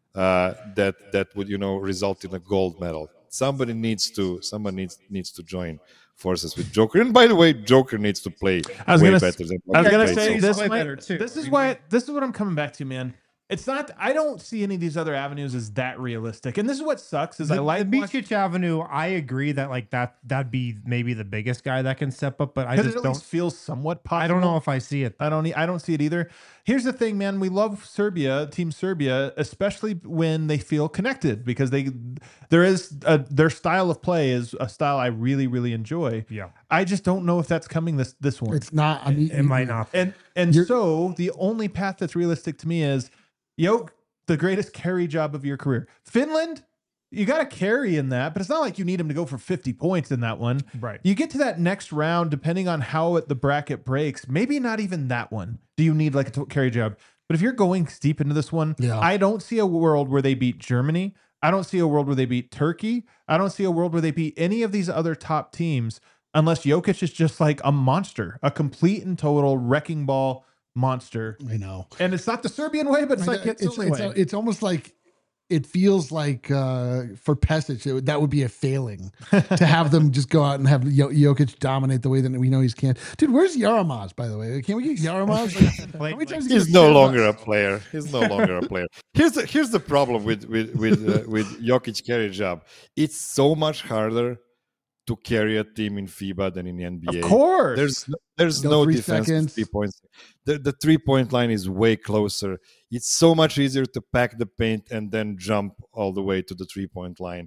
Speaker 4: that would, result in a gold medal. Somebody needs to join forces with Joker. And by the way, Joker needs to play way better than
Speaker 1: I was going to say,
Speaker 3: so.
Speaker 1: this is what I'm coming back to, man. It's not. I don't see any of these other avenues as that realistic, and this is what sucks. Is
Speaker 3: the,
Speaker 1: I like
Speaker 3: the Micic Avenue. I agree that that'd be maybe the biggest guy that can step up, but I just don't
Speaker 1: feel somewhat possible.
Speaker 3: I don't know if I see it.
Speaker 1: I don't see it either. Here's the thing, man. We love Team Serbia, especially when they feel connected, because their style of play is a style I really, really enjoy.
Speaker 3: Yeah.
Speaker 1: I just don't know if that's coming this one.
Speaker 2: It's not. I mean,
Speaker 3: it might not.
Speaker 1: And so the only path that's realistic to me is Yoke, the greatest carry job of your career. Finland, you got to carry in that, but it's not like you need him to go for 50 points in that one.
Speaker 3: Right.
Speaker 1: You get to that next round, depending on how the bracket breaks, maybe not even that one. Do you need like a carry job? But if you're going deep into this one, I don't see a world where they beat Germany. I don't see a world where they beat Turkey. I don't see a world where they beat any of these other top teams unless Jokic is just like a monster, a complete and total wrecking ball monster.
Speaker 2: I know.
Speaker 1: And it's not the Serbian way, but
Speaker 2: it's almost like it feels like for Pesic, that would be a failing to have them just go out and have Jokic dominate the way that we know he can. Dude, where's Yaramaz, by the way? Can we get Yaramaz?
Speaker 4: He's no longer a player. He's no longer a player. Here's the problem with Jokic carry job. It's so much harder to carry a team in FIBA than in the NBA.
Speaker 1: Of course.
Speaker 4: There's no defensive 3 points. The 3-point line is way closer. It's so much easier to pack the paint and then jump all the way to the 3-point line.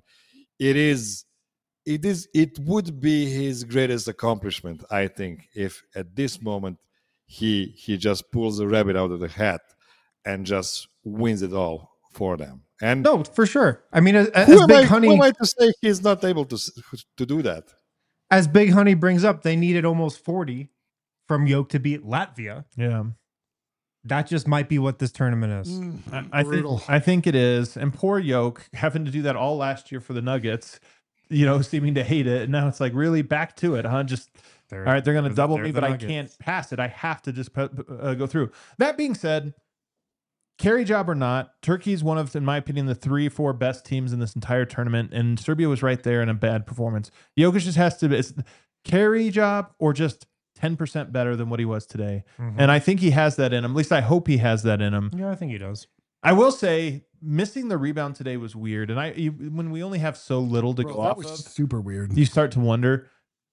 Speaker 4: It would be his greatest accomplishment, I think, if at this moment he just pulls a rabbit out of the hat and just wins it all for them. And
Speaker 3: no, for sure. I mean, as
Speaker 4: who
Speaker 3: Big Honey,
Speaker 4: am I to say he's not able to do that?
Speaker 3: As Big Honey brings up, they needed almost 40 from Yoke to beat Latvia.
Speaker 1: Yeah.
Speaker 3: That just might be what this tournament is.
Speaker 1: I think it is. And poor Yoke having to do that all last year for the Nuggets, seeming to hate it. And now it's like really back to it, huh? Just all right, they're going to double me, but I can't pass it. I have to just go through. That being said, carry job or not, Turkey's one of, in my opinion, the 3-4 best teams in this entire tournament, and Serbia was right there in a bad performance. Jokic just has to be carry job or just 10% better than what he was today. Mm-hmm. And I think he has that in him. At least I hope he has that in him.
Speaker 3: Yeah, I think he does.
Speaker 1: I will say missing the rebound today was weird. And when we only have so little to go off of,
Speaker 2: super weird.
Speaker 1: You start to wonder.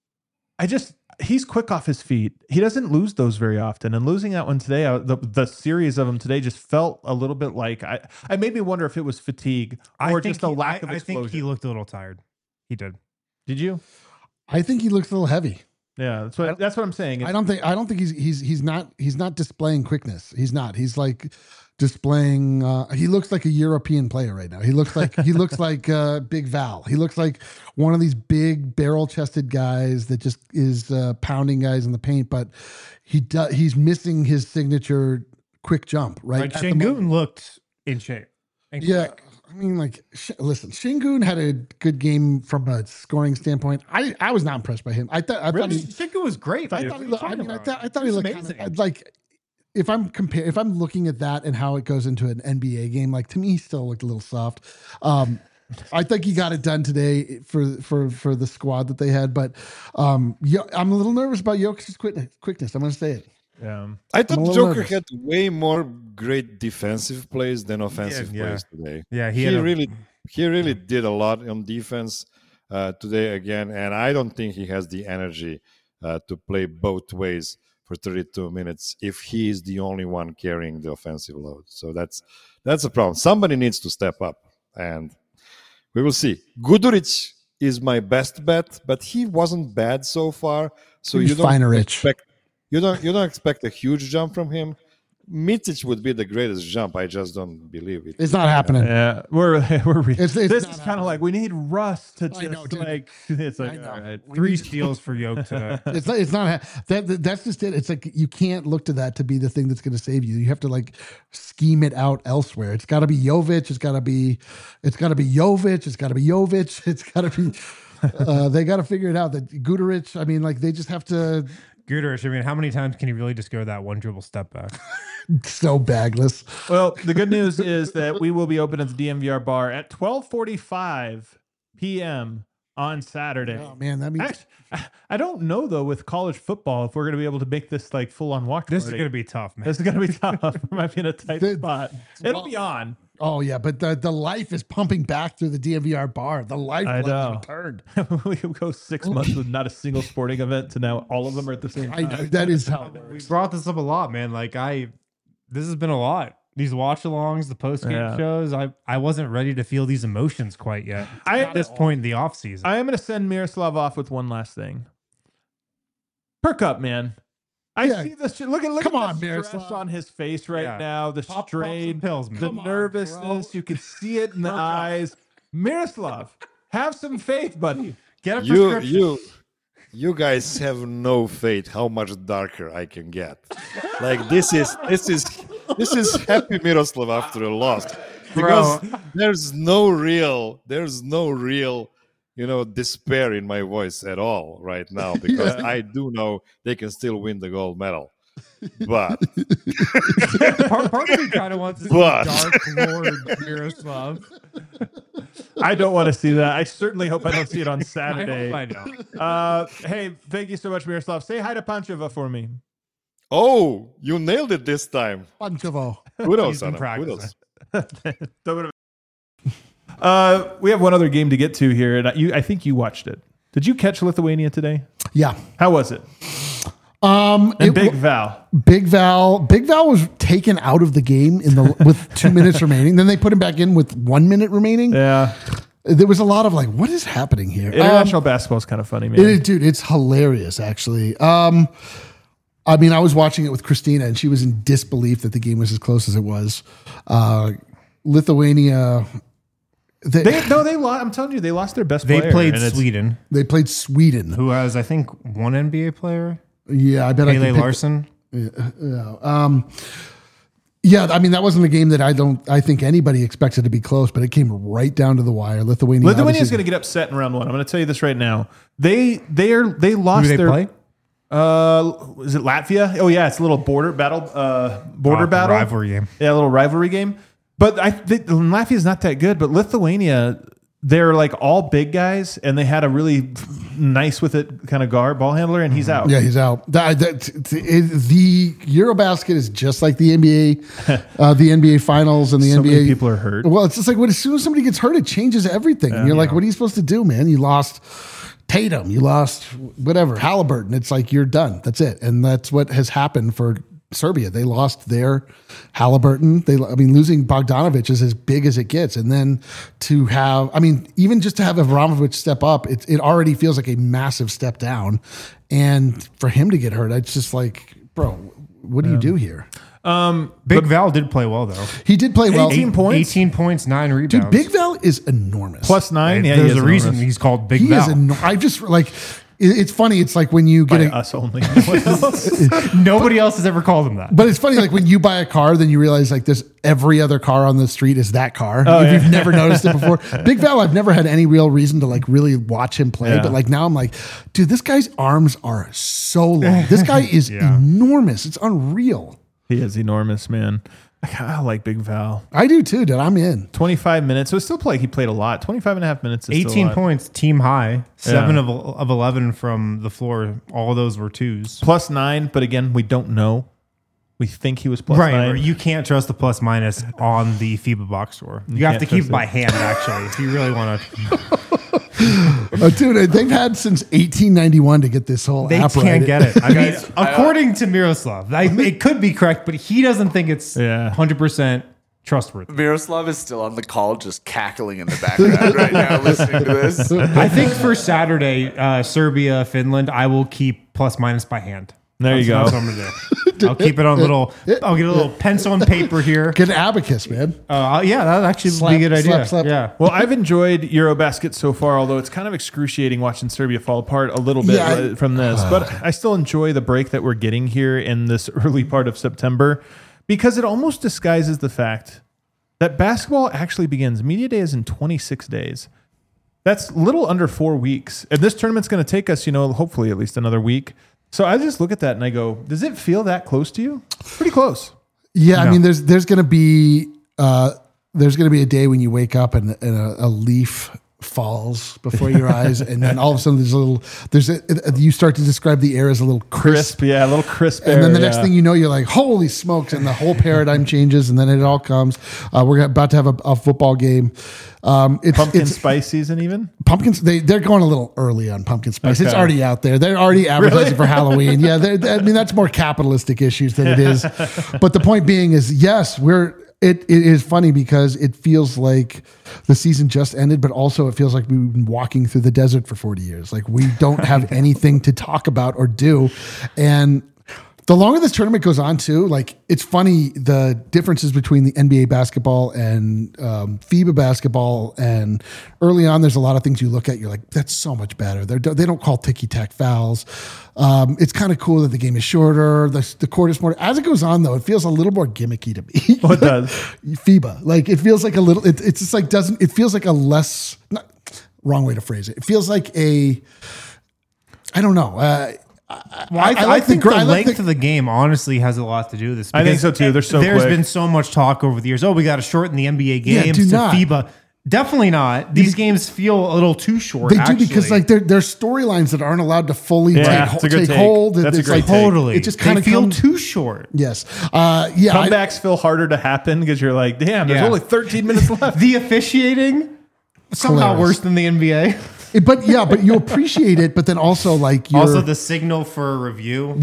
Speaker 1: He's quick off his feet. He doesn't lose those very often. And losing that one today, the series of them today just felt a little bit like, I made me wonder if it was fatigue or just a lack of explosion.
Speaker 3: I think he looked a little tired. He did.
Speaker 1: Did you?
Speaker 2: I think he looks a little heavy.
Speaker 1: Yeah, that's what I'm saying.
Speaker 2: I don't think he's not displaying quickness. He's not. He's like displaying. He looks like a European player right now. He looks like Big Val. He looks like one of these big barrel-chested guys that just is pounding guys in the paint. But he's missing his signature quick jump. Right.
Speaker 3: Like Şengün looked in shape.
Speaker 2: Yeah. Quick. I mean, listen, Şengün had a good game from a scoring standpoint. I was not impressed by him. I thought
Speaker 3: Şengün was great.
Speaker 2: I thought he looked amazing. Like if I'm looking at that and how it goes into an NBA game, like to me, he still looked a little soft. I think he got it done today for the squad that they had, but I'm a little nervous about Jokic's quickness. I'm going to say it.
Speaker 1: Yeah.
Speaker 4: I thought Joker had way more great defensive plays than offensive plays today.
Speaker 3: Yeah,
Speaker 4: he really did a lot on defense today again, and I don't think he has the energy to play both ways for 32 minutes if he is the only one carrying the offensive load. So that's a problem. Somebody needs to step up, and we will see. Guduric is my best bet, but he wasn't bad so far. So
Speaker 2: He's
Speaker 4: you don't
Speaker 2: Rich.
Speaker 4: you don't expect a huge jump from him. Mitic would be the greatest jump. I just don't believe it.
Speaker 2: It's not happening.
Speaker 1: Yeah,
Speaker 2: It's
Speaker 1: this
Speaker 2: not
Speaker 1: is kind of like we need Russ to
Speaker 2: I know,
Speaker 1: just
Speaker 2: dude.
Speaker 1: like it's like
Speaker 2: I know.
Speaker 1: all right.
Speaker 3: 3 steals for Yoke today.
Speaker 2: It's not that's just it. It's like you can't look to that to be the thing that's going to save you. You have to like scheme it out elsewhere. It's got to be Jovic. It's got to be Jovic. It's got to be Jovic. It's got to be. They got to figure it out. That Guduric. I mean, like they just have to.
Speaker 3: Guduric, I mean, how many times can he really just go that one dribble step back?
Speaker 2: So bagless.
Speaker 1: Well, the good news is that we will be open at the DMVR bar at 12:45 p.m. on Saturday.
Speaker 2: Oh man, that means
Speaker 1: Actually, I don't know though with college football if we're going to be able to make this like full on watch.
Speaker 3: This is
Speaker 1: party.
Speaker 3: going to be tough, man.
Speaker 1: This is going to be tough. We might be in a tight spot. It'll be on.
Speaker 2: oh yeah, but the life is pumping back through the DMVR bar. The life
Speaker 1: I
Speaker 2: has
Speaker 1: know.
Speaker 2: returned.
Speaker 1: We could go 6 months with not a single sporting event to now all of them are at the same
Speaker 2: I
Speaker 1: time.
Speaker 2: know that is how it
Speaker 3: We
Speaker 2: works.
Speaker 3: brought this up a lot, man. Like this has been a lot. These watch-alongs, the post-game
Speaker 1: Yeah.
Speaker 3: shows. I wasn't ready to feel these emotions quite yet. At this point in the off season.
Speaker 1: I am going to send Miroslav off with one last thing. Perk up, man. I
Speaker 2: Yeah.
Speaker 1: see this. Look at
Speaker 2: Come
Speaker 1: the
Speaker 2: on,
Speaker 1: stress
Speaker 2: Miroslav.
Speaker 1: on his face right
Speaker 3: Yeah.
Speaker 1: now. The
Speaker 3: Pop some
Speaker 1: strain,
Speaker 3: pills, man.
Speaker 1: the
Speaker 2: Come on,
Speaker 1: nervousness.
Speaker 2: bro.
Speaker 1: You can see it in the eyes. Miroslav, have some faith, buddy.
Speaker 3: Get a prescription.
Speaker 4: You guys have no faith how much darker I can get. Like this is happy Miroslav after a loss, because there's no real despair in my voice at all right now, because I do know they can still win the gold medal. But
Speaker 3: Part of me kind of wants to see
Speaker 4: But-
Speaker 3: Dark Lord Miroslav.
Speaker 1: I don't want to see that. I certainly hope I don't see it on
Speaker 3: I
Speaker 1: Saturday.
Speaker 3: hope I know.
Speaker 1: Hey, thank you so much, Miroslav. Say hi to Pancheva for me.
Speaker 4: oh, you nailed it this time.
Speaker 2: Panchovo.
Speaker 4: Kudos,
Speaker 3: He's been
Speaker 4: Anna.
Speaker 3: practicing.
Speaker 4: Kudos.
Speaker 1: We have one other game to get to here, and I think you watched it. Did you catch Lithuania today?
Speaker 2: Yeah.
Speaker 1: How was it?
Speaker 2: And
Speaker 1: Big Val.
Speaker 2: Big Val was taken out of the game with 2 minutes remaining. Then they put him back in with 1 minute remaining.
Speaker 1: Yeah.
Speaker 2: There was a lot of like, what is happening here?
Speaker 1: International basketball is kind of funny, man.
Speaker 2: Dude, it's hilarious, actually. I mean, I was watching it with Christina, and she was in disbelief that the game was as close as it was. Lithuania,
Speaker 1: They lost. I'm telling you, they lost their best
Speaker 3: They
Speaker 1: player.
Speaker 3: played
Speaker 1: and it's-
Speaker 3: Sweden,
Speaker 2: they played Sweden.
Speaker 3: who has, I think, one NBA player,
Speaker 2: Yeah, I bet I
Speaker 3: Pele
Speaker 2: could pick-
Speaker 3: Larson.
Speaker 2: Yeah, I mean, that wasn't a game that I think anybody expected to be close, but it came right down to the wire. Lithuania
Speaker 1: is
Speaker 2: obviously-
Speaker 1: going to get upset in round one. I'm going to tell you this right now. They lost
Speaker 3: Who do they
Speaker 1: their
Speaker 3: play?
Speaker 1: Is it Latvia? Oh yeah, it's a little border battle. Battle
Speaker 3: rivalry game.
Speaker 1: Yeah, a little rivalry game. But Latvia is not that good. But Lithuania, they're like all big guys, and they had a really nice with it kind of ball handler, and he's out.
Speaker 2: Yeah, he's out. The Eurobasket is just like the NBA, the NBA Finals and the
Speaker 1: So
Speaker 2: NBA.
Speaker 1: many people are hurt.
Speaker 2: Well, it's just like as soon as somebody gets hurt, it changes everything. And you're like, what are you supposed to do, man? You lost Tatum, you lost whatever, Halliburton. It's like you're done. That's it. And that's what has happened for Serbia. They lost their Halliburton. Losing Bogdanovic is as big as it gets. And then to have, even just to have Avramovic step up, it already feels like a massive step down. And for him to get hurt, it's just like, bro, what do you do here?
Speaker 3: Big Val did play well, though.
Speaker 2: He did play well.
Speaker 1: 18 points?
Speaker 3: 18 points, 9 rebounds.
Speaker 2: Dude, Big Val is enormous.
Speaker 1: +9. Yeah,
Speaker 3: There's a reason he's called Big
Speaker 2: He
Speaker 3: Val.
Speaker 2: is I just like, it's funny. It's like when you get
Speaker 1: by
Speaker 2: a,
Speaker 1: us only.
Speaker 3: Nobody else has ever called him that.
Speaker 2: but it's funny, like when you buy a car, then you realize like there's every other car on the street is that car. If you've never noticed it before. Big Val, I've never had any real reason to like really watch him play.
Speaker 1: Yeah.
Speaker 2: But like now I'm like, dude, this guy's arms are so long. This guy is enormous. It's unreal.
Speaker 1: He is enormous, man. I like Big Val.
Speaker 2: I do too, dude. I'm in.
Speaker 1: 25 minutes. So it still he played a lot. 25 and a half minutes is still a
Speaker 3: 18
Speaker 1: lot.
Speaker 3: points, team high. 7 of 11 from the floor. All of those were twos.
Speaker 1: +9, but again, we don't know. We think he was plus
Speaker 3: Right,
Speaker 1: 9.
Speaker 3: or you can't trust the plus minus on the FIBA box score. You have
Speaker 1: can't
Speaker 3: to keep
Speaker 1: trust
Speaker 3: it by hand, actually, if you really want to.
Speaker 2: Dude, they've had since 1891 to get this whole
Speaker 3: They
Speaker 2: app
Speaker 3: can't
Speaker 2: right.
Speaker 3: get it. I mean, according to Miroslav, it could be correct, but he doesn't think it's 100% trustworthy.
Speaker 5: Miroslav is still on the call, just cackling in the background right now, listening to this.
Speaker 3: I think for Saturday, Serbia, Finland, I will keep plus minus by hand.
Speaker 1: There you go.
Speaker 3: That's what I'm gonna do. I'll keep it on I'll get a little pencil and paper here.
Speaker 2: Get an abacus, man.
Speaker 3: Yeah, that would actually be a good idea.
Speaker 2: Slap.
Speaker 3: Yeah.
Speaker 1: Well, I've enjoyed Eurobasket so far, although it's kind of excruciating watching Serbia fall apart a little bit from this. But I still enjoy the break that we're getting here in this early part of September because it almost disguises the fact that basketball actually begins. Media Day is in 26 days. That's little under 4 weeks. And this tournament's going to take us, hopefully at least another week. So I just look at that and I go, does it feel that close to you? Pretty close.
Speaker 2: Yeah, I mean, there's going to be a day when you wake up and a leaf falls before your eyes, and then all of a sudden you start to describe the air as a little crisp.
Speaker 1: Yeah, a little crisp
Speaker 2: And
Speaker 1: air,
Speaker 2: then the next thing you know, you're like, holy smokes, and the whole paradigm changes, and then it all comes. We're about to have a football game.
Speaker 1: Pumpkin spice season even?
Speaker 2: Pumpkins, they're going a little early on pumpkin spice.
Speaker 1: Okay.
Speaker 2: It's already out there. They're already advertising for Halloween. Yeah, that's more capitalistic issues than it is. But the point being is, yes, it is funny because it feels like the season just ended, but also it feels like we've been walking through the desert for 40 years. Like we don't have anything to talk about or do. And the longer this tournament goes on too, like it's funny, the differences between the NBA basketball and FIBA basketball. And early on, there's a lot of things you look at, you're like, that's so much better. They don't call ticky-tack fouls. It's kind of cool that the game is shorter. The court is more. As it goes on, though, it feels a little more gimmicky to me.
Speaker 1: Oh, it does.
Speaker 2: FIBA, like it feels like a little. It's just like it feels like a less. Wrong way to phrase it. It feels like I don't know.
Speaker 3: I think the length of the game honestly has a lot to do with this.
Speaker 1: I think so too. There's
Speaker 3: quick. Been so much talk over the years. Oh, we got to shorten the NBA games to FIBA. Definitely not. These games feel a little too short.
Speaker 2: They do because like they're storylines that aren't allowed to fully take hold.
Speaker 1: That's a great
Speaker 3: totally.
Speaker 2: It just kind of
Speaker 3: feel too short.
Speaker 2: Yes.
Speaker 1: Comebacks feel harder to happen because you're like, damn, there's only 13 minutes left.
Speaker 3: The officiating somehow worse than the NBA.
Speaker 2: But you appreciate it, but then also like
Speaker 3: also the signal for a review.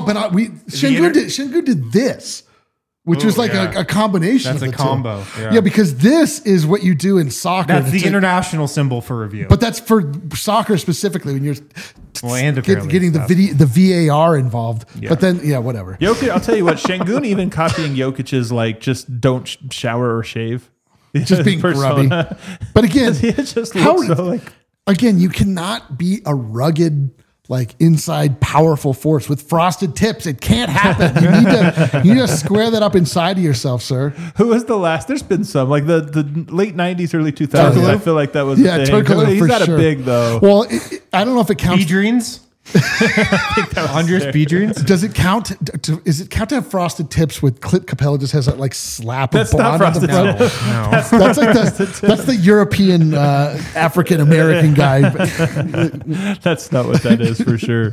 Speaker 2: Shingu did this, which was like a combination.
Speaker 3: That's
Speaker 2: of
Speaker 3: a
Speaker 2: the
Speaker 3: combo.
Speaker 2: Two. Yeah, because this is what you do in soccer.
Speaker 3: That's the international symbol for review.
Speaker 2: But that's for soccer specifically when you're getting the VAR involved. Yeah. But then whatever.
Speaker 1: Jokic, I'll tell you what, Şengün even copying Jokic's like just don't shower or shave.
Speaker 2: Just being grubby. But again,
Speaker 1: it just looks so like.
Speaker 2: Again, you cannot be a rugged, like inside powerful force with frosted tips. It can't happen. You need to square that up inside of yourself, sir.
Speaker 1: Who was the last? There's been some like the late 90s, early 2000s.
Speaker 2: Turkoglu?
Speaker 1: I feel like that was a thing.
Speaker 2: Turkoglu
Speaker 1: He's not a big though.
Speaker 2: Well, I don't know if it counts.
Speaker 3: Beedreams? I think that was Andres Beedreams.
Speaker 2: Does it count? Is it count to have frosted tips with Clint Capella just has that like slap
Speaker 1: that's
Speaker 2: of blonde on the front?
Speaker 3: No.
Speaker 2: That's like that's the European African American guy.
Speaker 1: That's not what that is for sure.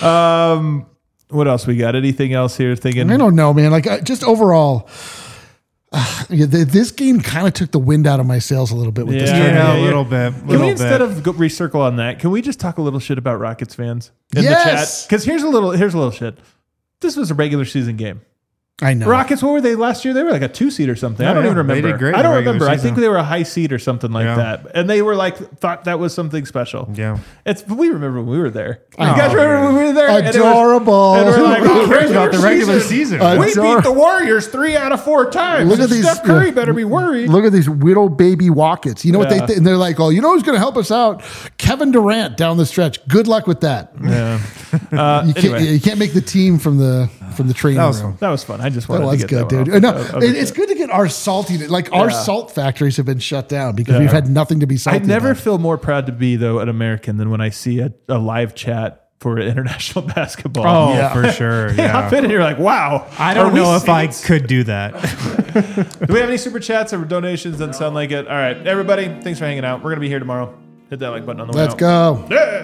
Speaker 1: What else we got? Anything else here? Thinking?
Speaker 2: I don't know, man. Like just overall. This game kind of took the wind out of my sails a little bit with this tournament.
Speaker 3: Yeah, a little bit.
Speaker 1: Can we, instead of recircle on that, can we just talk a little shit about Rockets fans in the chat? Because here's a little shit. This was a regular season game.
Speaker 2: I know.
Speaker 1: Rockets, what were they last year? They were like a 2 seed or something. I don't even remember.
Speaker 3: They did great.
Speaker 1: I don't remember. I think they were a high seed or something like that. And they were like, thought that was something special.
Speaker 3: Yeah.
Speaker 1: We remember when we were there. You guys remember when we were there?
Speaker 2: Adorable.
Speaker 1: And we're like,
Speaker 3: who cares about the regular season?
Speaker 1: We beat the Warriors 3 out of 4 times.
Speaker 2: Look at these.
Speaker 1: Steph Curry better be worried.
Speaker 2: Look at these little baby Rockets. You know what they think? And they're like, oh, you know who's going to help us out? Kevin Durant down the stretch. Good luck with that.
Speaker 1: Yeah.
Speaker 2: You can't make the team from the training room.
Speaker 1: That was fun. I just wanted to get
Speaker 2: good, dude. No, it's good to get our salty. Like our salt factories have been shut down because we've had nothing to be salty.
Speaker 1: I never
Speaker 2: about.
Speaker 1: feel more proud to be though an American than when I see a live chat for international basketball.
Speaker 3: Oh, for sure. Yeah.
Speaker 1: Hop in and you're like, wow.
Speaker 3: I don't know if I could do that.
Speaker 1: Do we have any super chats or donations? Doesn't sound like it. All right, everybody. Thanks for hanging out. We're gonna be here tomorrow. Hit that like button on the way out.
Speaker 2: Let's go.
Speaker 1: Yeah.